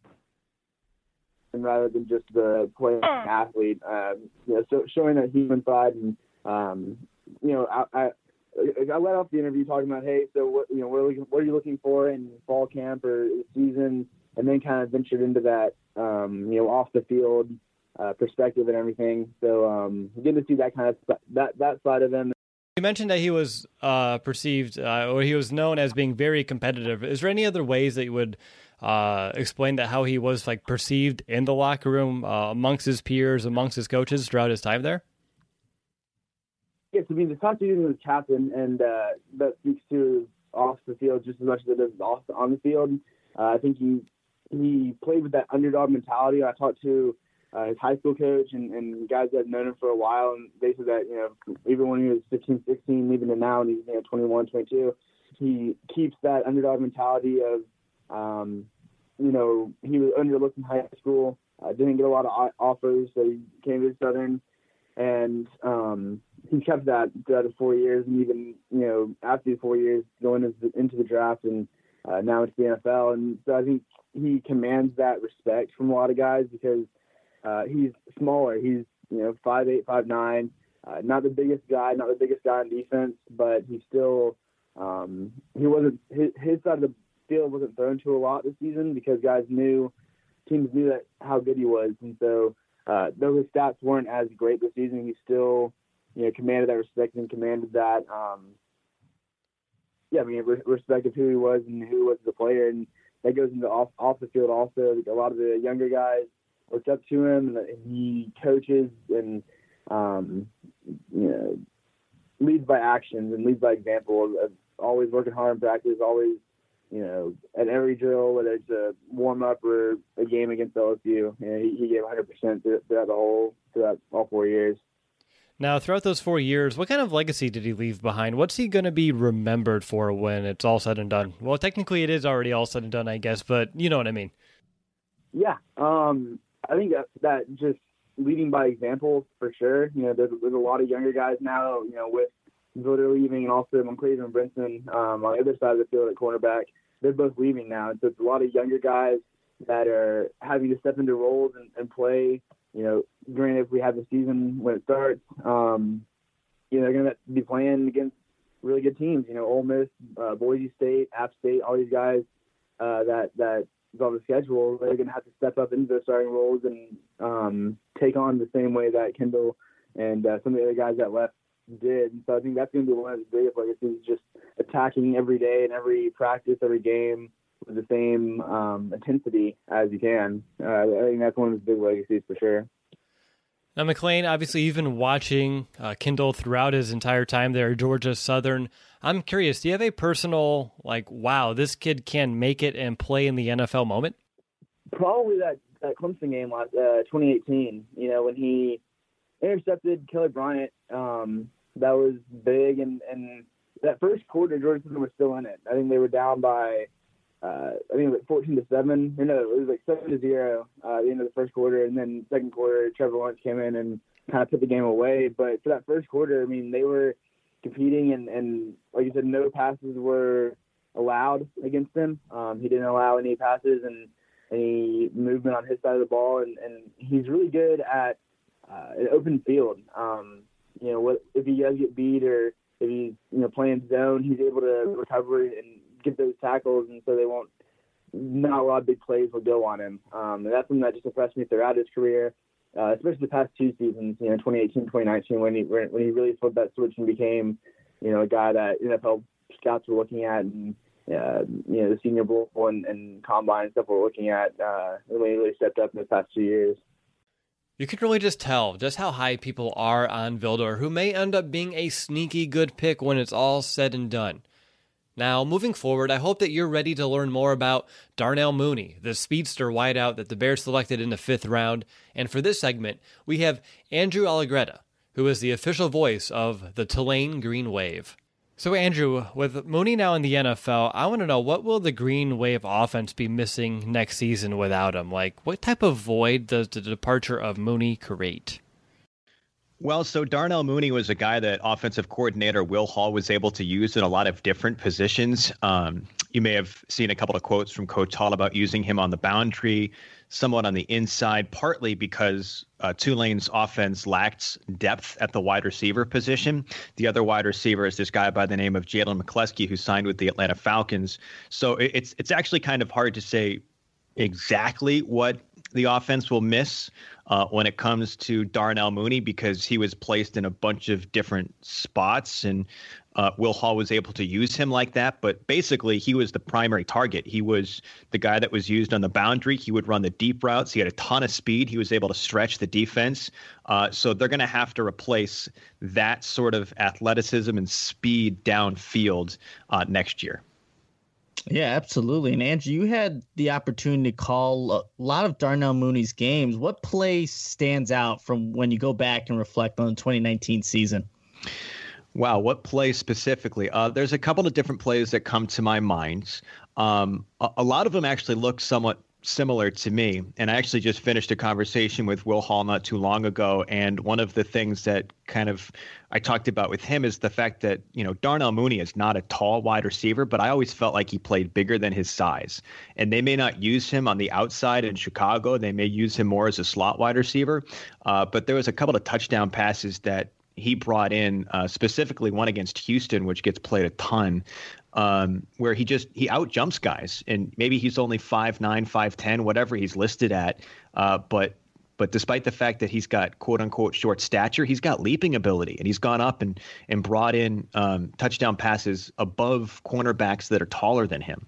and rather than just the playing athlete, um, you know, so showing that human side, and um, you know, I, I I let off the interview talking about, hey, so what you know, what are, looking, what are you looking for in fall camp or season, and then kind of ventured into that, um, you know, off the field uh, perspective and everything. So um, getting to see that kind of that that side of him. You mentioned that he was uh, perceived, uh, or he was known as being very competitive. Is there any other ways that you would uh, explain that how he was like perceived in the locker room uh, amongst his peers, amongst his coaches throughout his time there? Yes, I mean, the talk to him was captain, and uh, that speaks to off the field just as much as it does off on the field. Uh, I think he he played with that underdog mentality. I talked to uh, his high school coach and, and guys that have known him for a while, and they said that, you know, even when he was fifteen, sixteen, even to now, and he's, you know, twenty-one, twenty-two, he keeps that underdog mentality of, um, you know, he was underlooked in high school, uh, didn't get a lot of offers, so he came to Southern, and um, he kept that throughout the four years, and even, you know, after the four years, going into the, into the draft and uh, now into the N F L. And so I think he commands that respect from a lot of guys because uh, he's smaller. He's, you know, five eight, five nine, uh, not the biggest guy, not the biggest guy on defense, but he still, um, he wasn't, his, his side of the field wasn't thrown to a lot this season because guys knew, teams knew that how good he was. And so, Uh, though his stats weren't as great this season, he still, you know, commanded that respect and commanded that, um, yeah, I mean, re- respect of who he was and who he was as a player. And that goes into off, off the field also. A lot of the younger guys looked up to him, and he coaches and, um, you know, leads by actions and leads by example of, of always working hard in practice, always, you know, at every drill, whether it's a warm-up or a game against L S U, you know, he, he gave one hundred percent throughout the whole, throughout all four years. Now, throughout those four years, what kind of legacy did he leave behind? What's he going to be remembered for when it's all said and done? Well, technically it is already all said and done, I guess, but you know what I mean. Yeah, um, I think that, that just leading by example for sure. You know, there's, there's a lot of younger guys now, you know, with Vilder leaving and also Monclaven and Brinson um, on the other side of the field at cornerback. They're both leaving now. And so it's a lot of younger guys that are having to step into roles and, and play. You know, granted, if we have the season when it starts, um, you know, they're going to be playing against really good teams. You know, Ole Miss, uh, Boise State, App State, all these guys uh, that that is on the schedule. They're going to have to step up into their starting roles and um, take on the same way that Kendall and uh, some of the other guys that left did. And so I think that's going to be one of the biggest legacies, just attacking every day and every practice, every game with the same um, intensity as you can. Uh, I think that's one of his big legacies for sure. Now, McLean, obviously you've been watching uh, Kendall throughout his entire time there at Georgia Southern. I'm curious, do you have a personal, like, wow, this kid can make it and play in the N F L moment? Probably that, that Clemson game last uh, twenty eighteen, you know, when he intercepted Kelly Bryant. Um, that was big, and, and that first quarter, Georgia Southern was still in it. I think they were down by, uh, I think it was like fourteen to seven. Or no, it was like seven to zero uh, at the end of the first quarter, and then second quarter, Trevor Lawrence came in and kind of put the game away. But for that first quarter, I mean, they were competing, and, and like you said, no passes were allowed against him. Um, he didn't allow any passes and any movement on his side of the ball, and, and he's really good at uh, an open field. Um, you know, what if he does get beat or if he's you know playing zone, he's able to recover and get those tackles, and so they won't. Not a lot of big plays will go on him. Um, and that's something that just impressed me throughout his career, uh, especially the past two seasons, you know, twenty eighteen, twenty nineteen, when he when he really flipped that switch and became, you know, a guy that N F L scouts were looking at, and uh, you know, the Senior Bowl and, and Combine and stuff we're looking at uh, when he really stepped up in the past two years. You can really just tell just how high people are on Vildor, who may end up being a sneaky good pick when it's all said and done. Now, moving forward, I hope that you're ready to learn more about Darnell Mooney, the speedster wideout that the Bears selected in the fifth round. And for this segment, we have Andrew Allegretta, who is the official voice of the Tulane Green Wave. So, Andrew, with Mooney now in the N F L, I want to know, what will the Green Wave offense be missing next season without him? Like, what type of void does the departure of Mooney create? Well, so Darnell Mooney was a guy that offensive coordinator Will Hall was able to use in a lot of different positions. Um, you may have seen a couple of quotes from Coach Hall about using him on the boundary, somewhat on the inside, partly because uh, Tulane's offense lacked depth at the wide receiver position. The other wide receiver is this guy by the name of Jalen McCleskey, who signed with the Atlanta Falcons. So it, it's it's actually kind of hard to say exactly what the offense will miss uh, when it comes to Darnell Mooney, because he was placed in a bunch of different spots, and uh, Will Hall was able to use him like that. But basically, he was the primary target. He was the guy that was used on the boundary. He would run the deep routes. He had a ton of speed. He was able to stretch the defense. Uh, so they're going to have to replace that sort of athleticism and speed downfield uh, next year. Yeah, absolutely. And Andrew, you had the opportunity to call a lot of Darnell Mooney's games. What play stands out from when you go back and reflect on the twenty nineteen season? Wow, what play specifically? Uh, there's a couple of different plays that come to my mind. Um, a, a lot of them actually look somewhat similar to me. And I actually just finished a conversation with Will Hall not too long ago. And one of the things that kind of I talked about with him is the fact that, you know, Darnell Mooney is not a tall wide receiver, but I always felt like he played bigger than his size. And they may not use him on the outside in Chicago. They may use him more as a slot wide receiver. Uh, but there was a couple of touchdown passes that he brought in, uh, specifically one against Houston, which gets played a ton, um, where he just he out jumps guys, and maybe he's only five nine, five ten, whatever he's listed at. Uh, but but despite the fact that he's got quote unquote short stature, he's got leaping ability, and he's gone up and and brought in um, touchdown passes above cornerbacks that are taller than him.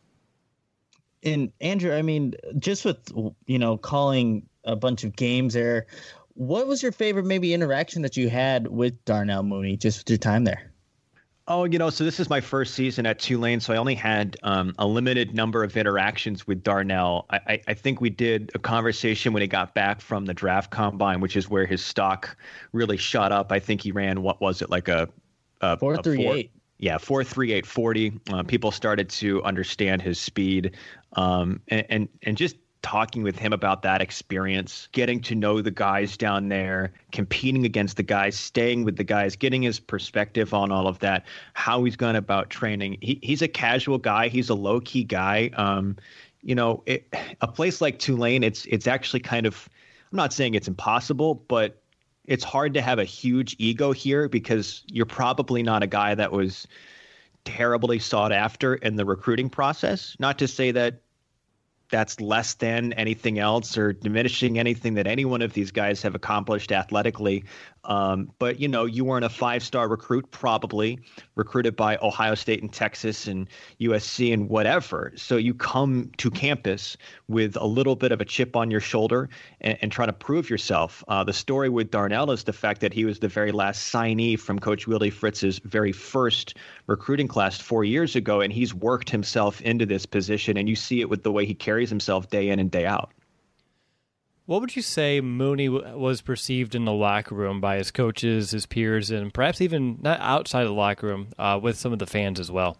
And Andrew, I mean, just with, you know, calling a bunch of games there, what was your favorite maybe interaction that you had with Darnell Mooney just with your time there? Oh, you know, so this is my first season at Tulane, so I only had um, a limited number of interactions with Darnell. I, I, I think we did a conversation when he got back from the draft combine, which is where his stock really shot up. I think he ran, what was it, like a, a four three eight. Yeah, four three eight forty. Uh, people started to understand his speed, um, and, and and just talking with him about that experience, getting to know the guys down there, competing against the guys, staying with the guys, getting his perspective on all of that, how he's gone about training. He, he's a casual guy. He's a low key guy. Um, you know, it, a place like Tulane, it's it's actually kind of, I'm not saying it's impossible, but it's hard to have a huge ego here because you're probably not a guy that was terribly sought after in the recruiting process. Not to say that that's less than anything else or diminishing anything that any one of these guys have accomplished athletically. Um, but, you know, you weren't a five-star recruit, probably recruited by Ohio State and Texas and U S C and whatever. So you come to campus with a little bit of a chip on your shoulder and, and try to prove yourself. Uh, the story with Darnell is the fact that he was the very last signee from Coach Willie Fritz's very first recruiting class four years ago, and he's worked himself into this position, and you see it with the way he carries himself day in and day out. What would you say Mooney w- was perceived in the locker room by his coaches, his peers, and perhaps even not outside of the locker room uh, with some of the fans as well?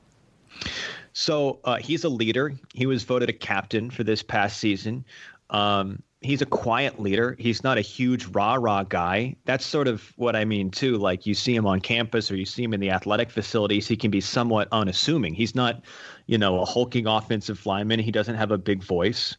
So uh, he's a leader. He was voted a captain for this past season. Um, he's a quiet leader. He's not a huge rah-rah guy. That's sort of what I mean, too. Like you see him on campus or you see him in the athletic facilities, he can be somewhat unassuming. He's not, you know, a hulking offensive lineman. He doesn't have a big voice.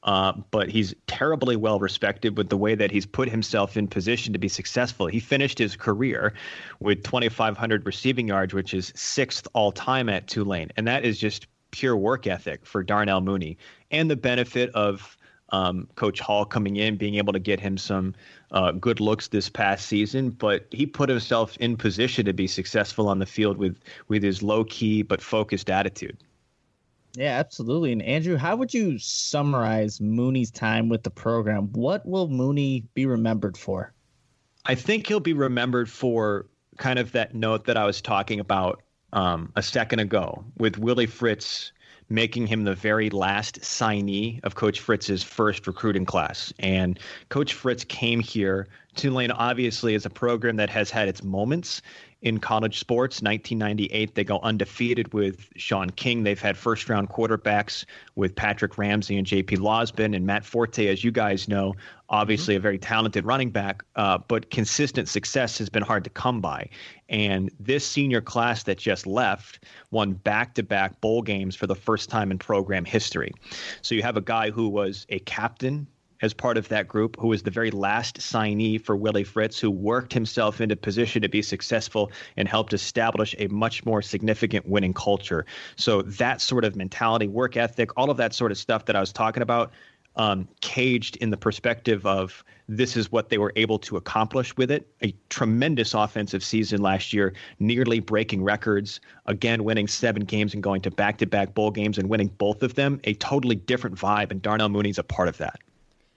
Uh, but he's terribly well respected with the way that he's put himself in position to be successful. He finished his career with twenty-five hundred receiving yards, which is sixth all time at Tulane. And that is just pure work ethic for Darnell Mooney, and the benefit of um, Coach Hall coming in, being able to get him some uh, good looks this past season. But he put himself in position to be successful on the field with, with his low key but focused attitude. Yeah, absolutely. And Andrew, how would you summarize Mooney's time with the program? What will Mooney be remembered for? I think he'll be remembered for kind of that note that I was talking about um, a second ago, with Willie Fritz making him the very last signee of Coach Fritz's first recruiting class. And Coach Fritz came here. Tulane obviously is a program that has had its moments in college sports. nineteen ninety-eight, they go undefeated with Sean King. They've had first-round quarterbacks with Patrick Ramsey and J P Losbin, and Matt Forte, as you guys know, obviously mm-hmm. a very talented running back, uh, but consistent success has been hard to come by. And this senior class that just left won back-to-back bowl games for the first time in program history. So you have a guy who was a captain as part of that group, who was the very last signee for Willie Fritz, who worked himself into position to be successful and helped establish a much more significant winning culture. So that sort of mentality, work ethic, all of that sort of stuff that I was talking about, um, caged in the perspective of this is what they were able to accomplish with it. A tremendous offensive season last year, nearly breaking records, again, winning seven games and going to back-to-back bowl games and winning both of them. A totally different vibe, and Darnell Mooney's a part of that.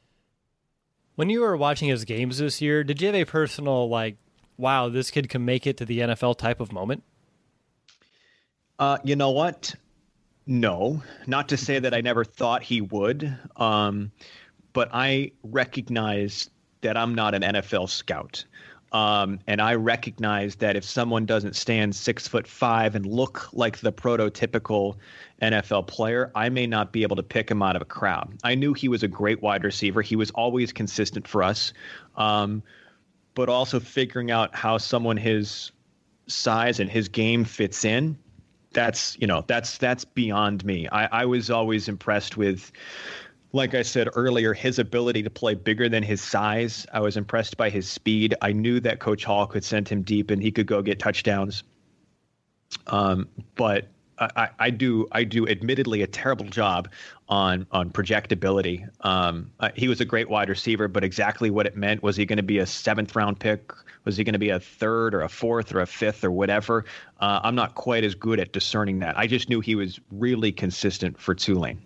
When you were watching his games this year, did you have a personal, like, wow, this kid can make it to the N F L type of moment? Uh, you know what? No. Not to say that I never thought he would, um, but I recognize that I'm not an N F L scout. Um, and I recognize that if someone doesn't stand six foot five and look like the prototypical N F L player, I may not be able to pick him out of a crowd. I knew he was a great wide receiver. He was always consistent for us. Um, but also figuring out how someone his size and his game fits in, that's, you know, that's, that's beyond me. I, I was always impressed with, like I said earlier, his ability to play bigger than his size. I was impressed by his speed. I knew that Coach Hall could send him deep and he could go get touchdowns. Um, but I, I do, I do admittedly a terrible job on on projectability. Um, uh, he was a great wide receiver, but exactly what it meant, was he going to be a seventh round pick? Was he going to be a third or a fourth or a fifth or whatever? Uh, I'm not quite as good at discerning that. I just knew he was really consistent for Tulane.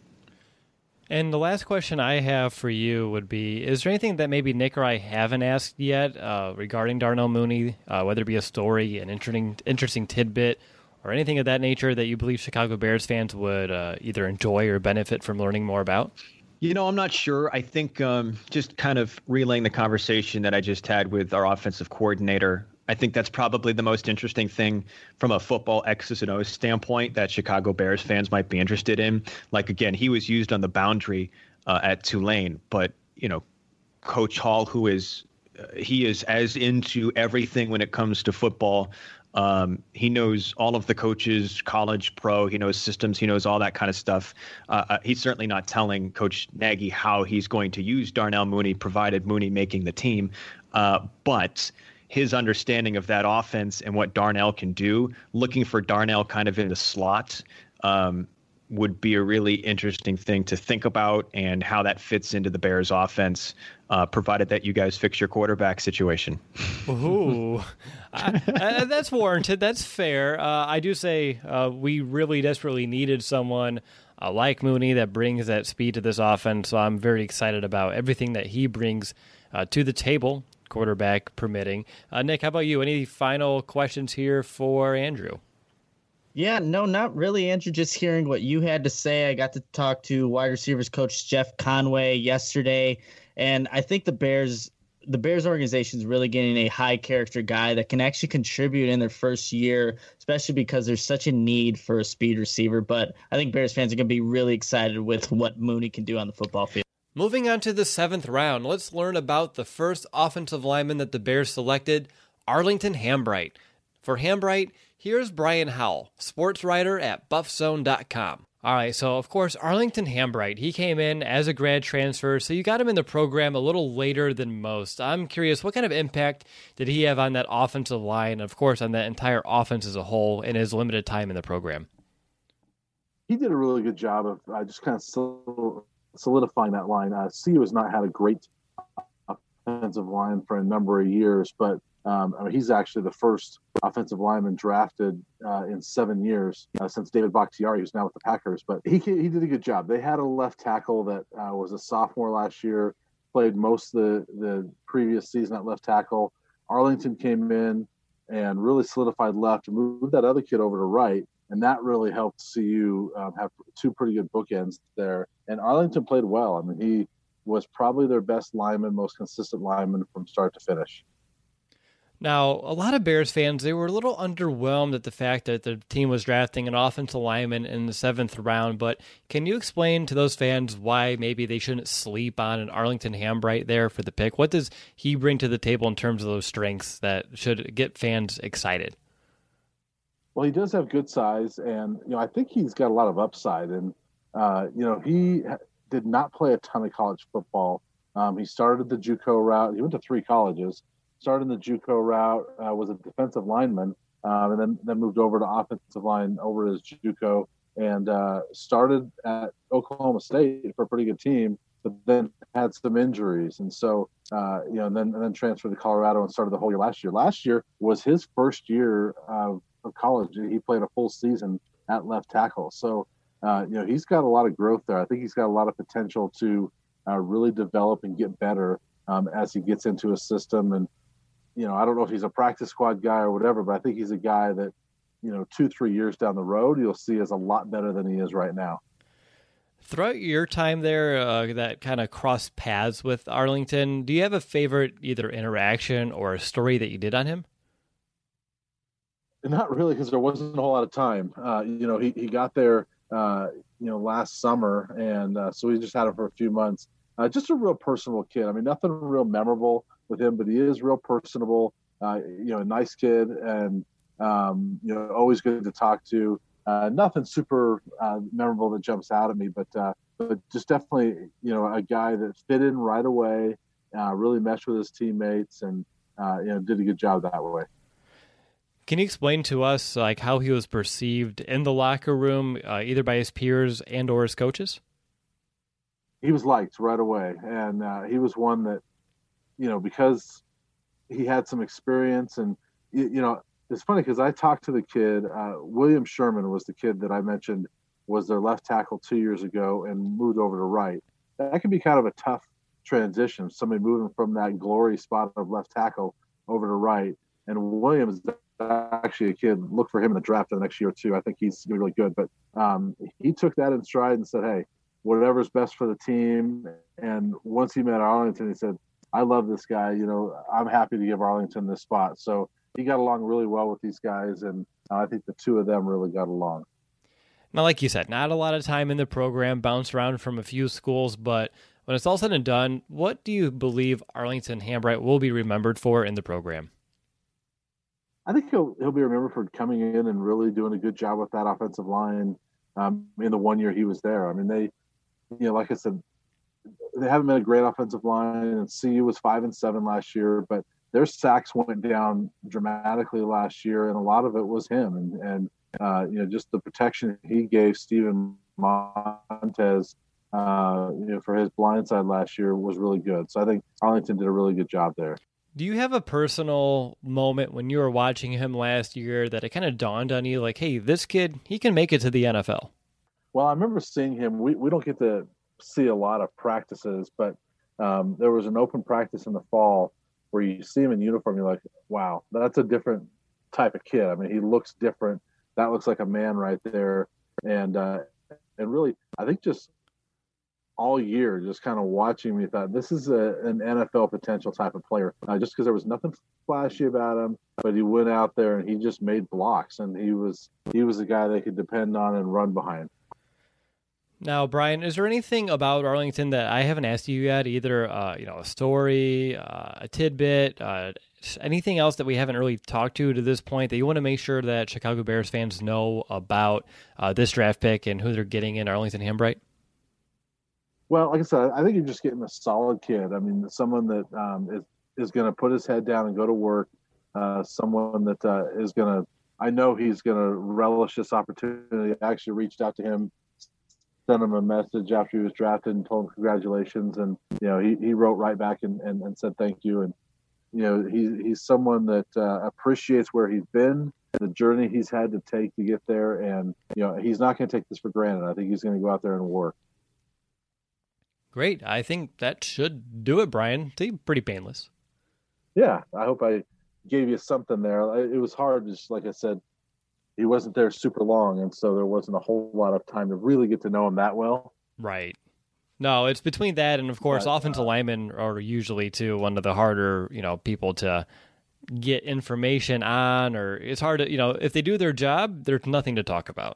And the last question I have for you would be, is there anything that maybe Nick or I haven't asked yet uh, regarding Darnell Mooney, uh, whether it be a story, an interesting interesting tidbit, or anything of that nature that you believe Chicago Bears fans would uh, either enjoy or benefit from learning more about? You know, I'm not sure. I think um, just kind of relaying the conversation that I just had with our offensive coordinator, I think that's probably the most interesting thing from a football X's and O's standpoint that Chicago Bears fans might be interested in. Like, again, he was used on the boundary uh, at Tulane, but, you know, Coach Hall, who is, uh, he is as into everything when it comes to football. Um, he knows all of the coaches, college, pro, he knows systems, he knows all that kind of stuff. Uh, uh, he's certainly not telling Coach Nagy how he's going to use Darnell Mooney, provided Mooney making the team. Uh, but his understanding of that offense and what Darnell can do, looking for Darnell kind of in the slot, um, would be a really interesting thing to think about, and how that fits into the Bears offense, uh, provided that you guys fix your quarterback situation. Ooh, I, I, that's warranted. That's fair. Uh, I do say uh, we really desperately needed someone uh, like Mooney that brings that speed to this offense, so I'm very excited about everything that he brings uh, to the table, quarterback permitting. Uh, Nick, how about you? Any final questions here for Andrew? Yeah, no, not really, Andrew. Just hearing what you had to say. I got to talk to wide receivers coach Jeff Conway yesterday, and I think the Bears, the Bears organization is really getting a high character guy that can actually contribute in their first year, especially because there's such a need for a speed receiver. But I think Bears fans are going to be really excited with what Mooney can do on the football field. Moving on to the seventh round, let's learn about the first offensive lineman that the Bears selected, Arlington Hambright. For Hambright, here's Brian Howell, sports writer at buff zone dot com. All right, so of course, Arlington Hambright, he came in as a grad transfer, so you got him in the program a little later than most. I'm curious, what kind of impact did he have on that offensive line, and of course, on that entire offense as a whole in his limited time in the program? He did a really good job of uh, just kind of solidifying that line. Uh, C U has not had a great offensive line for a number of years, but Um, I mean, he's actually the first offensive lineman drafted uh, in seven years uh, since David Bakhtiari, who's now with the Packers. But he he did a good job. They had a left tackle that uh, was a sophomore last year, played most of the, the previous season at left tackle. Arlington came in and really solidified left, moved that other kid over to right, and that really helped C U um, have two pretty good bookends there. And Arlington played well. I mean, he was probably their best lineman, most consistent lineman from start to finish. Now, a lot of Bears fans, they were a little underwhelmed at the fact that the team was drafting an offensive lineman in the seventh round, but can you explain to those fans why maybe they shouldn't sleep on an Arlington Hambright there for the pick? What does he bring to the table in terms of those strengths that should get fans excited? Well, he does have good size, and you know I think he's got a lot of upside. And uh, you know he did not play a ton of college football. Um, he started the JUCO route. He went to three colleges. Started in the JUCO route, uh, was a defensive lineman, um, and then, then moved over to offensive line over his JUCO, and uh, started at Oklahoma State for a pretty good team, but then had some injuries, and so uh, you know, and then and then transferred to Colorado and started the whole year last year. Last year was his first year of, of college. He played a full season at left tackle, so uh, you know he's got a lot of growth there. I think he's got a lot of potential to uh, really develop and get better um, as he gets into a system. And you know, I don't know if he's a practice squad guy or whatever, but I think he's a guy that, you know, two, three years down the road, you'll see is a lot better than he is right now. Throughout your time there, uh, that kind of crossed paths with Arlington, do you have a favorite either interaction or a story that you did on him? Not really, because there wasn't a whole lot of time. Uh, you know, he, he got there, uh, you know, last summer, and uh, so we just had him for a few months. Uh, just a real personable kid. I mean, nothing real memorable with him, but he is real personable, uh, you know, a nice kid, and, um, you know, always good to talk to. Uh, nothing super uh, memorable that jumps out at me, but uh, but just definitely, you know, a guy that fit in right away, uh, really meshed with his teammates, and, uh, you know, did a good job that way. Can you explain to us, like, how he was perceived in the locker room, uh, either by his peers and or his coaches? He was liked right away, and uh, he was one that, you know, because he had some experience, and, you, you know, it's funny because I talked to the kid, uh, William Sherman was the kid that I mentioned was their left tackle two years ago and moved over to right. That can be kind of a tough transition, somebody moving from that glory spot of left tackle over to right. And William is actually a kid, look for him in the draft in the next year or two. I think he's going to be really good. But um, he took that in stride and said, hey, whatever's best for the team. And once he met Arlington, he said, I love this guy. You know, I'm happy to give Arlington this spot. So he got along really well with these guys, and I think the two of them really got along. Now, like you said, not a lot of time in the program, bounced around from a few schools, but when it's all said and done, what do you believe Arlington Hambright will be remembered for in the program? I think he'll he'll be remembered for coming in and really doing a good job with that offensive line um, in the one year he was there. I mean, they, you know, like I said, they haven't been a great offensive line, and C U was five and seven last year, but their sacks went down dramatically last year, and a lot of it was him. And, and uh, you know, just the protection he gave Steven Montez, uh, you know, for his blindside last year was really good. So I think Arlington did a really good job there. Do you have a personal moment when you were watching him last year that it kind of dawned on you, like, hey, this kid, he can make it to the N F L? Well, I remember seeing him. We, we don't get to see a lot of practices, but um, there was an open practice in the fall where you see him in uniform, you're like, wow, that's a different type of kid. I mean, he looks different. That looks like a man right there. And uh, and really, I think just all year, just kind of watching me, thought this is a, an N F L potential type of player. Uh, just because there was nothing flashy about him, but he went out there and he just made blocks, and he was he was a guy they could depend on and run behind. Now, Brian, is there anything about Arlington that I haven't asked you yet? Either uh, you know, a story, uh, a tidbit, uh, anything else that we haven't really talked to to this point that you want to make sure that Chicago Bears fans know about uh, this draft pick and who they're getting in Arlington Hambright? Well, like I said, I think you're just getting a solid kid. I mean, someone that um, is is going to put his head down and go to work. Uh, someone that uh, is going to, I know he's going to relish this opportunity. I actually reached out to him, sent him a message after he was drafted and told him congratulations. And, you know, he, he wrote right back and, and, and said thank you. And, you know, he, he's someone that uh, appreciates where he's been, the journey he's had to take to get there. And, you know, he's not going to take this for granted. I think he's going to go out there and work. Great. I think that should do it, Brian. It's pretty painless. Yeah, I hope I gave you something there. It was hard, just like I said, he wasn't there super long, and so there wasn't a whole lot of time to really get to know him that well. Right. No, it's between that and, of course, but, offensive uh, linemen are usually, too, one of the harder, you know, people to get information on, or it's hard to, you know, if they do their job, there's nothing to talk about.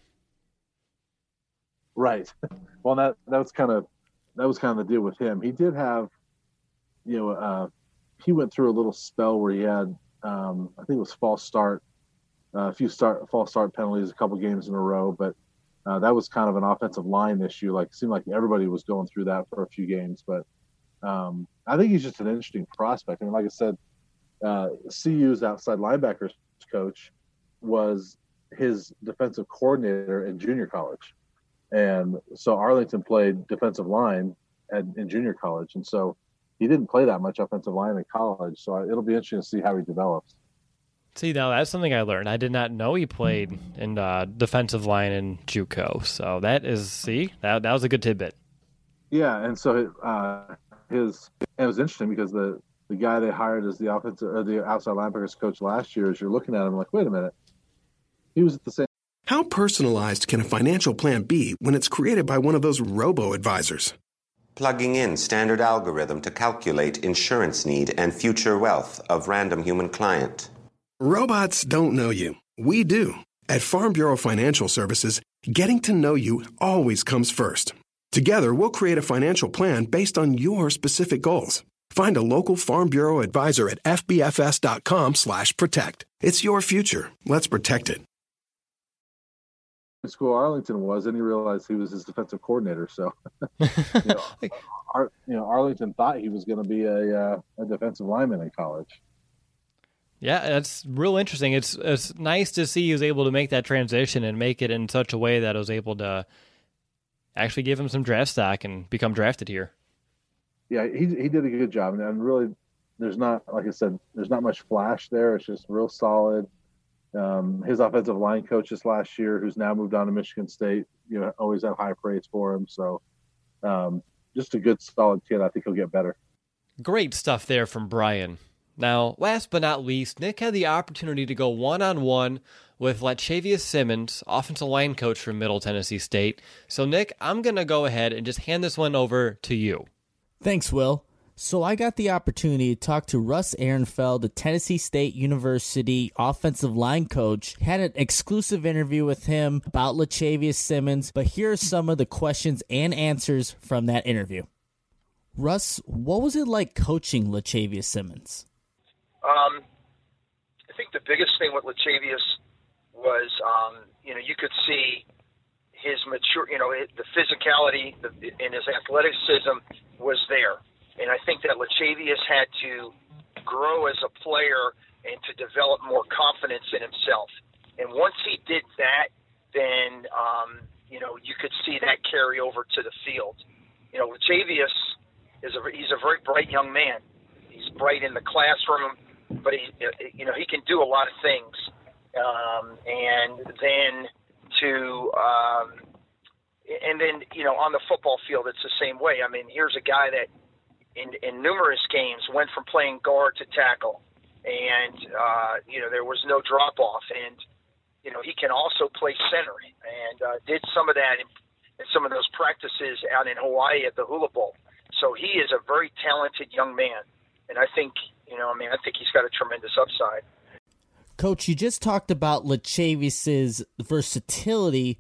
Right. Well, that that was kind of that was kind of the deal with him. He did have, you know, uh, he went through a little spell where he had, um, I think it was false start, uh, a few start false start penalties, a couple games in a row, but uh, that was kind of an offensive line issue. Like, it seemed like everybody was going through that for a few games, but um, I think he's just an interesting prospect. I mean, like I said, uh, C U's outside linebackers coach was his defensive coordinator in junior college. And so Arlington played defensive line at, in junior college. And so he didn't play that much offensive line in college. So it'll be interesting to see how he develops. See, now that's something I learned. I did not know he played in uh, defensive line in JUCO. So that is, see, that that was a good tidbit. Yeah, and so uh, his it was interesting because the, the guy they hired as the offensive or the outside linebackers coach last year, as you're looking at him, like, wait a minute, he was at the same. How personalized can a financial plan be when it's created by one of those robo-advisors? Plugging in standard algorithm to calculate insurance need and future wealth of random human client. Robots don't know you. We do. At Farm Bureau Financial Services, getting to know you always comes first. Together, we'll create a financial plan based on your specific goals. Find a local Farm Bureau advisor at fbfs.com slash protect. It's your future. Let's protect it. School Arlington was, and he realized he was his defensive coordinator. So, you, know, Ar- you know, Arlington thought he was going to be a, uh, a defensive lineman in college. Yeah, that's real interesting. It's it's nice to see he was able to make that transition and make it in such a way that I was able to actually give him some draft stock and become drafted here. Yeah, he he did a good job, and really, there's not, like I said, there's not much flash there. It's just real solid. Um, his offensive line coach this last year, who's now moved on to Michigan State, you know, always have high praise for him. So um, just a good, solid kid. I think he'll get better. Great stuff there from Brian. Now, last but not least, Nick had the opportunity to go one-on-one with Lachavious Simmons, offensive line coach from Middle Tennessee State. So, Nick, I'm going to go ahead and just hand this one over to you. Thanks, Will. So I got the opportunity to talk to Russ Ehrenfeld, the Tennessee State University offensive line coach. Had an exclusive interview with him about Lachavious Simmons, but here are some of the questions and answers from that interview. Russ, what was it like coaching Lachavious Simmons? Um, I think the biggest thing with Lachavious was, um, you know, you could see his mature, you know, the physicality and his athleticism was there. And I think that Lachavious had to grow as a player and to develop more confidence in himself. And once he did that, then, um, you know, you could see that carry over to the field. You know, Lachavious is a, he's a very bright young man. He's bright in the classroom, but he, you know, he can do a lot of things. Um, and then to, um, and then, you know, on the football field, it's the same way. I mean, here's a guy that, In, in numerous games, went from playing guard to tackle, and uh, you know there was no drop off. And you know he can also play center, and uh, did some of that in, in some of those practices out in Hawaii at the Hula Bowl. So he is a very talented young man, and I think you know I mean I think he's got a tremendous upside. Coach, you just talked about Lachavious's versatility.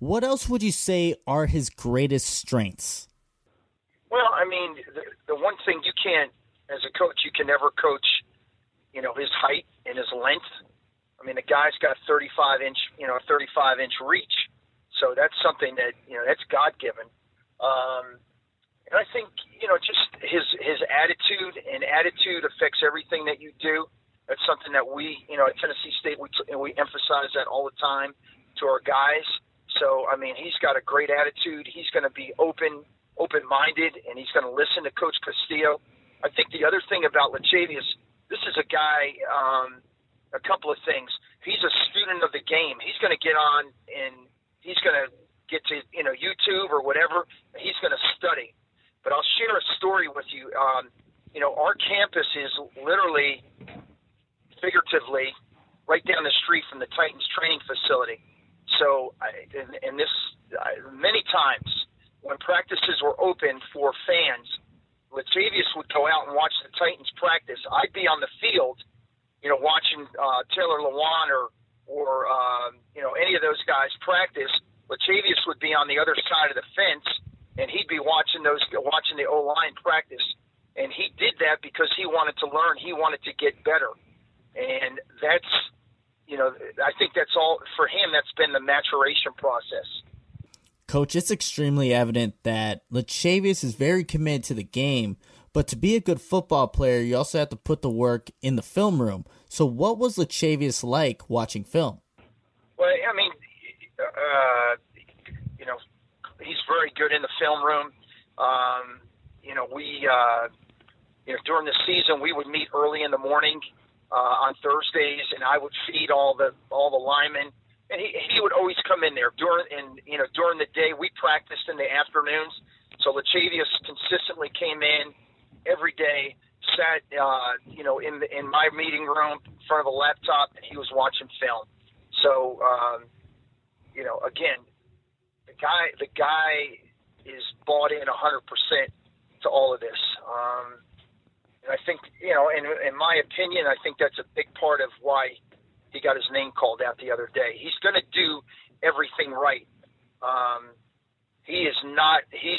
What else would you say are his greatest strengths? Well, I mean, the, the one thing you can't, as a coach, you can never coach, you know, his height and his length. I mean, the guy's got thirty-five inch, you know, thirty-five inch reach. So that's something that, you know, that's God-given. Um, and I think, you know, just his his attitude, and attitude affects everything that you do. That's something that we, you know, at Tennessee State, we and we emphasize that all the time to our guys. So, I mean, he's got a great attitude. He's going to be open, open-minded, and he's going to listen to Coach Castillo. I think the other thing about Lachavious, this is a guy, um, a couple of things. He's a student of the game. He's going to get on and he's going to get to, you know, YouTube or whatever. He's going to study. But I'll share a story with you. Um, you know, our campus is literally, figuratively, right down the street from the Titans training facility. So, I, and, and this, I, many times when practices were open for fans, Lachavious would go out and watch the Titans practice. I'd be on the field, you know, watching uh, Taylor Lewan or, or um, you know, any of those guys practice. Lachavious would be on the other side of the fence, and he'd be watching those, watching the O-line practice. And he did that because he wanted to learn. He wanted to get better. And that's, you know, I think that's all, for him, that's been the maturation process. Coach, it's extremely evident that Lachavious is very committed to the game, but to be a good football player, you also have to put the work in the film room. So what was Lachavious like watching film? Well, I mean, uh, you know, he's very good in the film room. Um, you know, we, uh, you know, during the season, we would meet early in the morning uh, on Thursdays, and I would feed all the all the linemen. And he, he would always come in there during, and you know, during the day. We practiced in the afternoons, so Lachavious consistently came in every day, sat, uh, you know, in the, in my meeting room in front of a laptop, and he was watching film. So, um, you know, again, the guy, the guy is bought in a hundred percent to all of this. Um, and I think, you know, in in my opinion, I think that's a big part of why he got his name called out the other day. He's going to do everything right. Um, he is not, he's,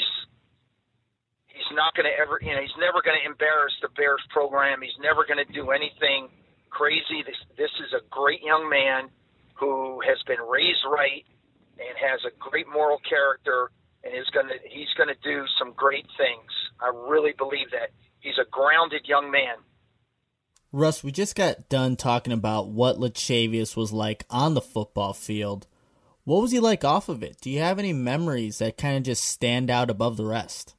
he's not going to ever, you know, he's never going to embarrass the Bears program. He's never going to do anything crazy. This, this is a great young man who has been raised right and has a great moral character, and is going to, he's going to do some great things. I really believe that. He's a grounded young man. Russ, we just got done talking about what Lachavious was like on the football field. What was he like off of it? Do you have any memories that kind of just stand out above the rest?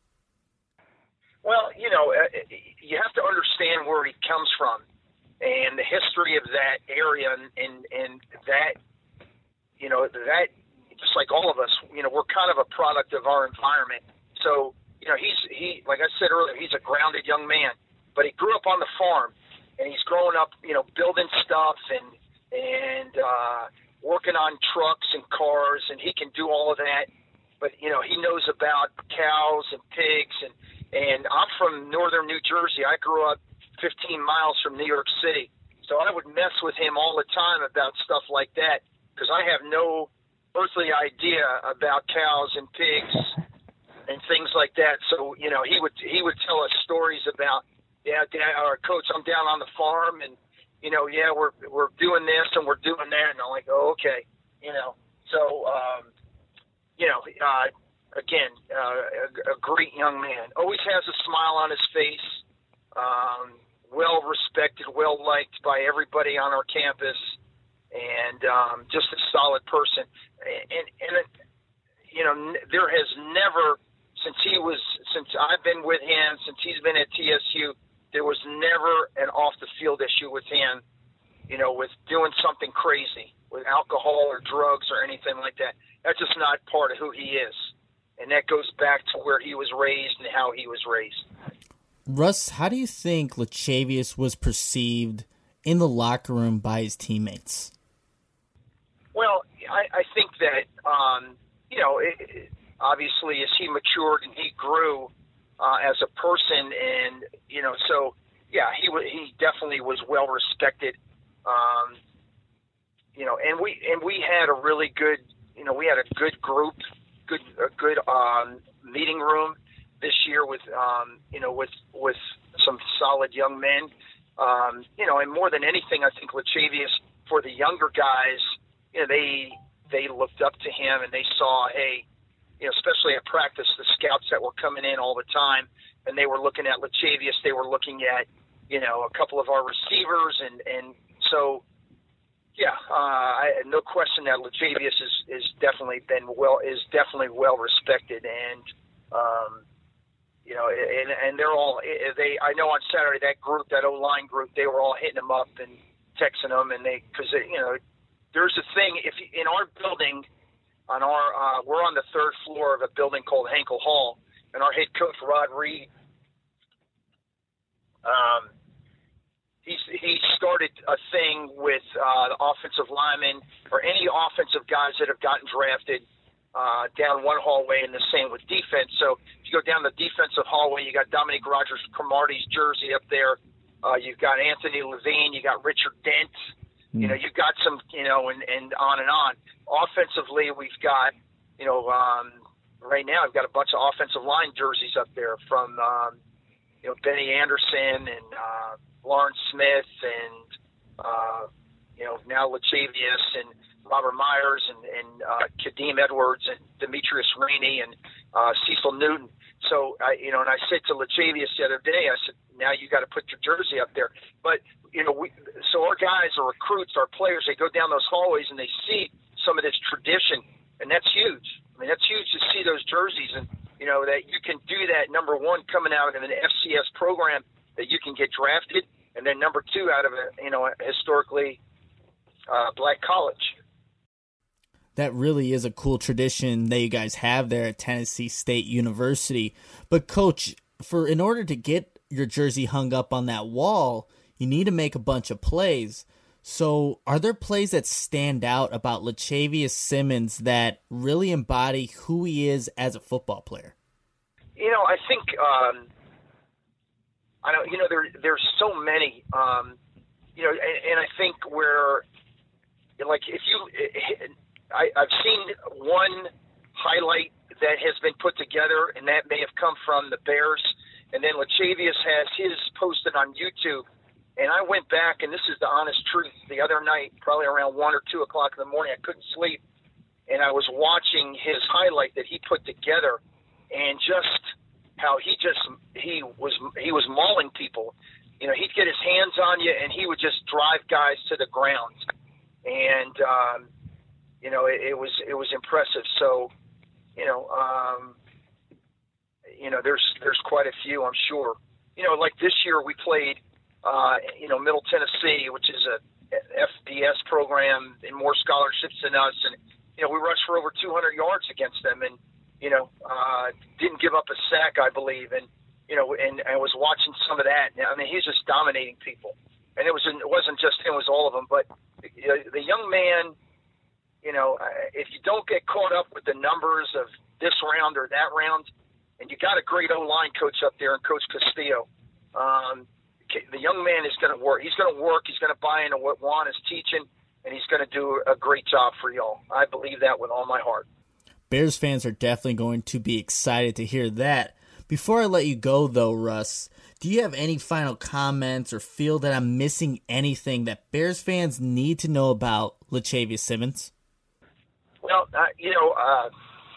Well, you know, you have to understand where he comes from and the history of that area, and, and, and that, you know, that, just like all of us, you know, we're kind of a product of our environment. So, you know, he's, he, like I said earlier, he's a grounded young man, but he grew up on the farm. And he's growing up, you know, building stuff and and uh, working on trucks and cars, and he can do all of that. But, you know, he knows about cows and pigs. And, and I'm from northern New Jersey. I grew up fifteen miles from New York City. So I would mess with him all the time about stuff like that because I have no earthly idea about cows and pigs and things like that. So, you know, he would he would tell us stories about, yeah, Dad, or Coach, I'm down on the farm, and you know, yeah, we're we're doing this and we're doing that, and I'm like, oh, okay, you know. So, um, you know, uh, again, uh, a, a great young man. Always has a smile on his face. Um, well respected, well liked by everybody on our campus, and um, just a solid person. And and it, you know, there has never, since he was, since I've been with him, since he's been at T S U. There was never an off-the-field issue with him, you know, with doing something crazy, with alcohol or drugs or anything like that. That's just not part of who he is. And that goes back to where he was raised and how he was raised. Russ, how do you think Lachavious was perceived in the locker room by his teammates? Well, I, I think that, um, you know, it, it, obviously as he matured and he grew, Uh, as a person, and you know, so yeah, he w- he definitely was well respected, um, you know, and we and we had a really good, you know, know, we had a good group, good, a good um, meeting room this year with, um, you know, with with some solid young men. Um, you know, and more than anything, I think Lachavius, for the younger guys, you know, they they looked up to him and they saw, hey, you know, especially at practice, the scouts that were coming in all the time, and they were looking at Lachavius, they were looking at, you know, a couple of our receivers, and, and so, yeah, uh, I, no question that Lachavius is, is definitely been well, is definitely well respected, and, um, you know, and, and they're all, they, I know on Saturday, that group, that O-line group, they were all hitting him up and texting him, and they, because, you know, there's a thing, if you, in our building, on our, uh, we're on the third floor of a building called Henkel Hall, and our head coach, Rod Reed, um, he's, he started a thing with uh, the offensive linemen or any offensive guys that have gotten drafted uh, down one hallway, and the same with defense. So if you go down the defensive hallway, you got Dominique Rodgers-Cromartie's jersey up there. Uh, you've got Anthony Levine. You got Richard Dent. Mm. You know, you've got some, you know, and, and on and on. Offensively, we've got, you know, um, right now I've got a bunch of offensive line jerseys up there from, um, you know, Benny Anderson and uh, Lawrence Smith and, uh, you know, now Lachavius and Robert Myers and, and uh, Kadeem Edwards and Demetrius Rainey and uh, Cecil Newton. So, I, you know, and I said to Lachavius the other day, I said, now you got to put your jersey up there. But, you know, we, so our guys, our recruits, our players, they go down those hallways and they see some of this tradition, and that's huge. I mean, that's huge to see those jerseys, and, you know, that you can do that, number one, coming out of an F C S program that you can get drafted, and then number two, out of a, you know, a historically uh, black college. That really is a cool tradition that you guys have there at Tennessee State University. But, Coach, for in order to get your jersey hung up on that wall, you need to make a bunch of plays. So are there plays that stand out about Lachavius Simmons that really embody who he is as a football player? You know, I think, um, I don't, you know, there, there's so many, um, you know, and, and I think where, like, if you, I, I've seen one highlight that has been put together, and that may have come from the Bears, and then Lachavius has his posted on YouTube. And I went back, and this is the honest truth, the other night, probably around one or two o'clock in the morning, I couldn't sleep, and I was watching his highlight that he put together, and just how he just he was he was mauling people. You know, he'd get his hands on you, and he would just drive guys to the ground, and um, you know, it, it was it was impressive. So, you know, um, you know, there's there's quite a few, I'm sure. You know, like this year we played. Uh, you know, Middle Tennessee, which is a F B S program and more scholarships than us. And, you know, we rushed for over two hundred yards against them and, you know, uh, didn't give up a sack, I believe. And, you know, and I was watching some of that. I mean, he's just dominating people. And it, was, it wasn't just him, it was all of them. But you know, the young man, you know, if you don't get caught up with the numbers of this round or that round, and you got a great O-line coach up there and Coach Castillo, um, the young man is going to work. He's going to work. He's going to buy into what Juan is teaching, and he's going to do a great job for y'all. I believe that with all my heart. Bears fans are definitely going to be excited to hear that. Before I let you go, though, Russ, do you have any final comments or feel that I'm missing anything that Bears fans need to know about Lachavius Simmons? Well, uh, you know, uh,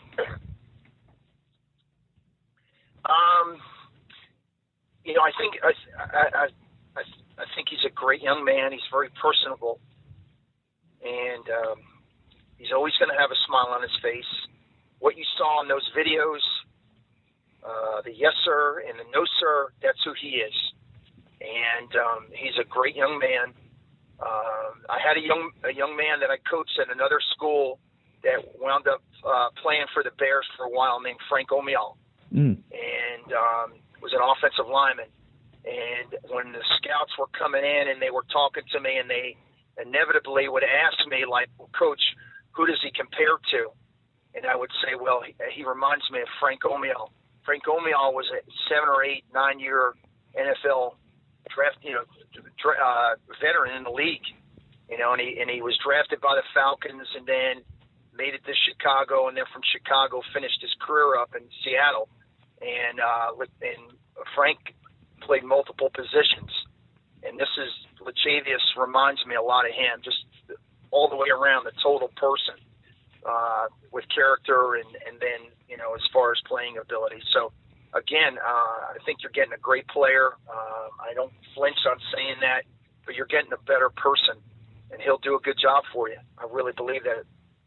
um. You know, I think I, I, I, I think he's a great young man. He's very personable, and um, he's always going to have a smile on his face. What you saw in those videos, uh, the yes sir and the no sir, that's who he is. And um, he's a great young man. Um, I had a young a young man that I coached at another school that wound up uh, playing for the Bears for a while, named Frank Omial, mm. and um, was an offensive lineman. And when the scouts were coming in and they were talking to me, and they inevitably would ask me, like, well, Coach, who does he compare to? And I would say, well, he, he reminds me of Frank Omial. Frank Omial was a seven or eight, nine-year N F L draft, you know, uh, veteran in the league, you know, and he and he was drafted by the Falcons, and then made it to Chicago, and then from Chicago finished his career up in Seattle. And, uh, and Frank played multiple positions. And this is, Lachavious reminds me a lot of him, just all the way around, the total person, uh, with character and, and then, you know, as far as playing ability. So, again, uh, I think you're getting a great player. Uh, I don't flinch on saying that, but you're getting a better person, and he'll do a good job for you. I really believe that.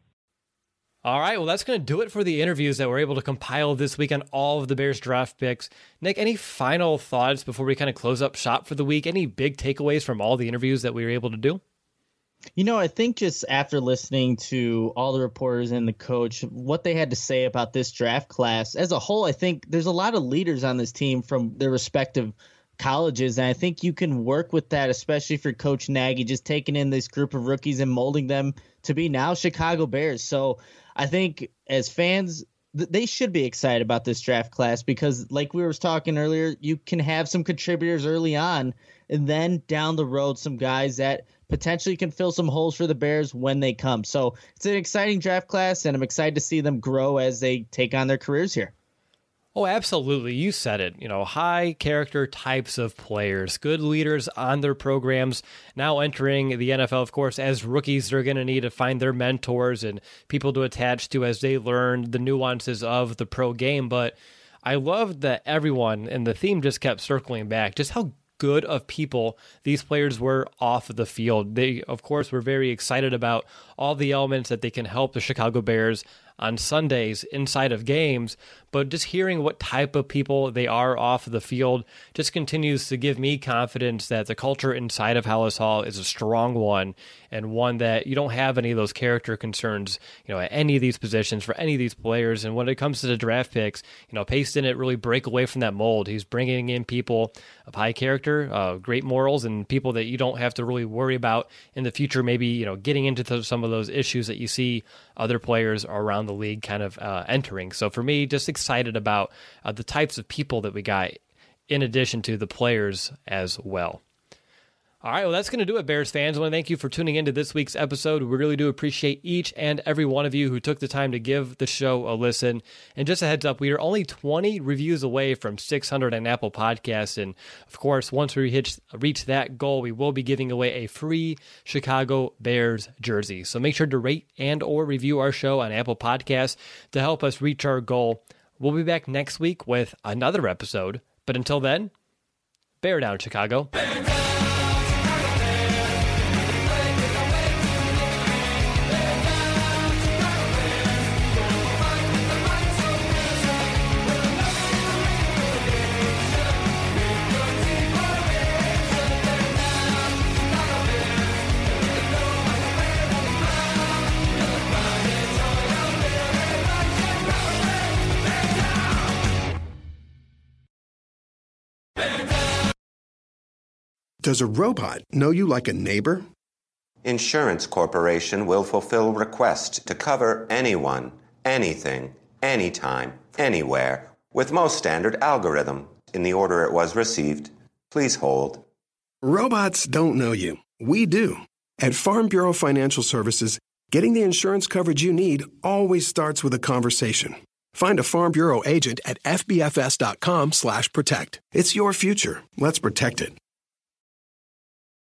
All right, well, that's going to do it for the interviews that we're able to compile this week on all of the Bears draft picks. Nick, any final thoughts before we kind of close up shop for the week? Any big takeaways from all the interviews that we were able to do? You know, I think just after listening to all the reporters and the coach, what they had to say about this draft class as a whole, I think there's a lot of leaders on this team from their respective colleges, and I think you can work with that, especially for Coach Nagy, just taking in this group of rookies and molding them to be now Chicago Bears. So I think as fans, th- they should be excited about this draft class because, like we were talking earlier, you can have some contributors early on, and then down the road, some guys that potentially can fill some holes for the Bears when they come. So it's an exciting draft class, and I'm excited to see them grow as they take on their careers here. Oh, absolutely. You said it. You know, high character types of players, good leaders on their programs, now entering the N F L, of course, as rookies. They're going to need to find their mentors and people to attach to as they learn the nuances of the pro game. But I loved that everyone, and the theme just kept circling back, just how good of people these players were off of the field. They, of course, were very excited about all the elements that they can help the Chicago Bears on Sundays inside of games, but just hearing what type of people they are off of the field just continues to give me confidence that the culture inside of Halas Hall is a strong one, and one that you don't have any of those character concerns, you know, at any of these positions for any of these players. And when it comes to the draft picks, you know, Pace didn't really break away from that mold. He's bringing in people of high character, uh, great morals, and people that you don't have to really worry about in the future, maybe, you know, getting into th- some of those issues that you see other players around the league kind of uh, entering. So for me, just excited about uh, the types of people that we got in addition to the players as well. All right, well, that's going to do it, Bears fans. I want to thank you for tuning into this week's episode. We really do appreciate each and every one of you who took the time to give the show a listen. And just a heads up, we are only twenty reviews away from six hundred on Apple Podcasts. And, of course, once we hit, reach that goal, we will be giving away a free Chicago Bears jersey. So make sure to rate and or review our show on Apple Podcasts to help us reach our goal. We'll be back next week with another episode. But until then, bear down, Chicago. Does a robot know you like a neighbor? Insurance Corporation will fulfill requests to cover anyone, anything, anytime, anywhere, with most standard algorithm in the order it was received. Please hold. Robots don't know you. We do. At Farm Bureau Financial Services, getting the insurance coverage you need always starts with a conversation. Find a Farm Bureau agent at F B F S dot com slash protect. It's your future. Let's protect it.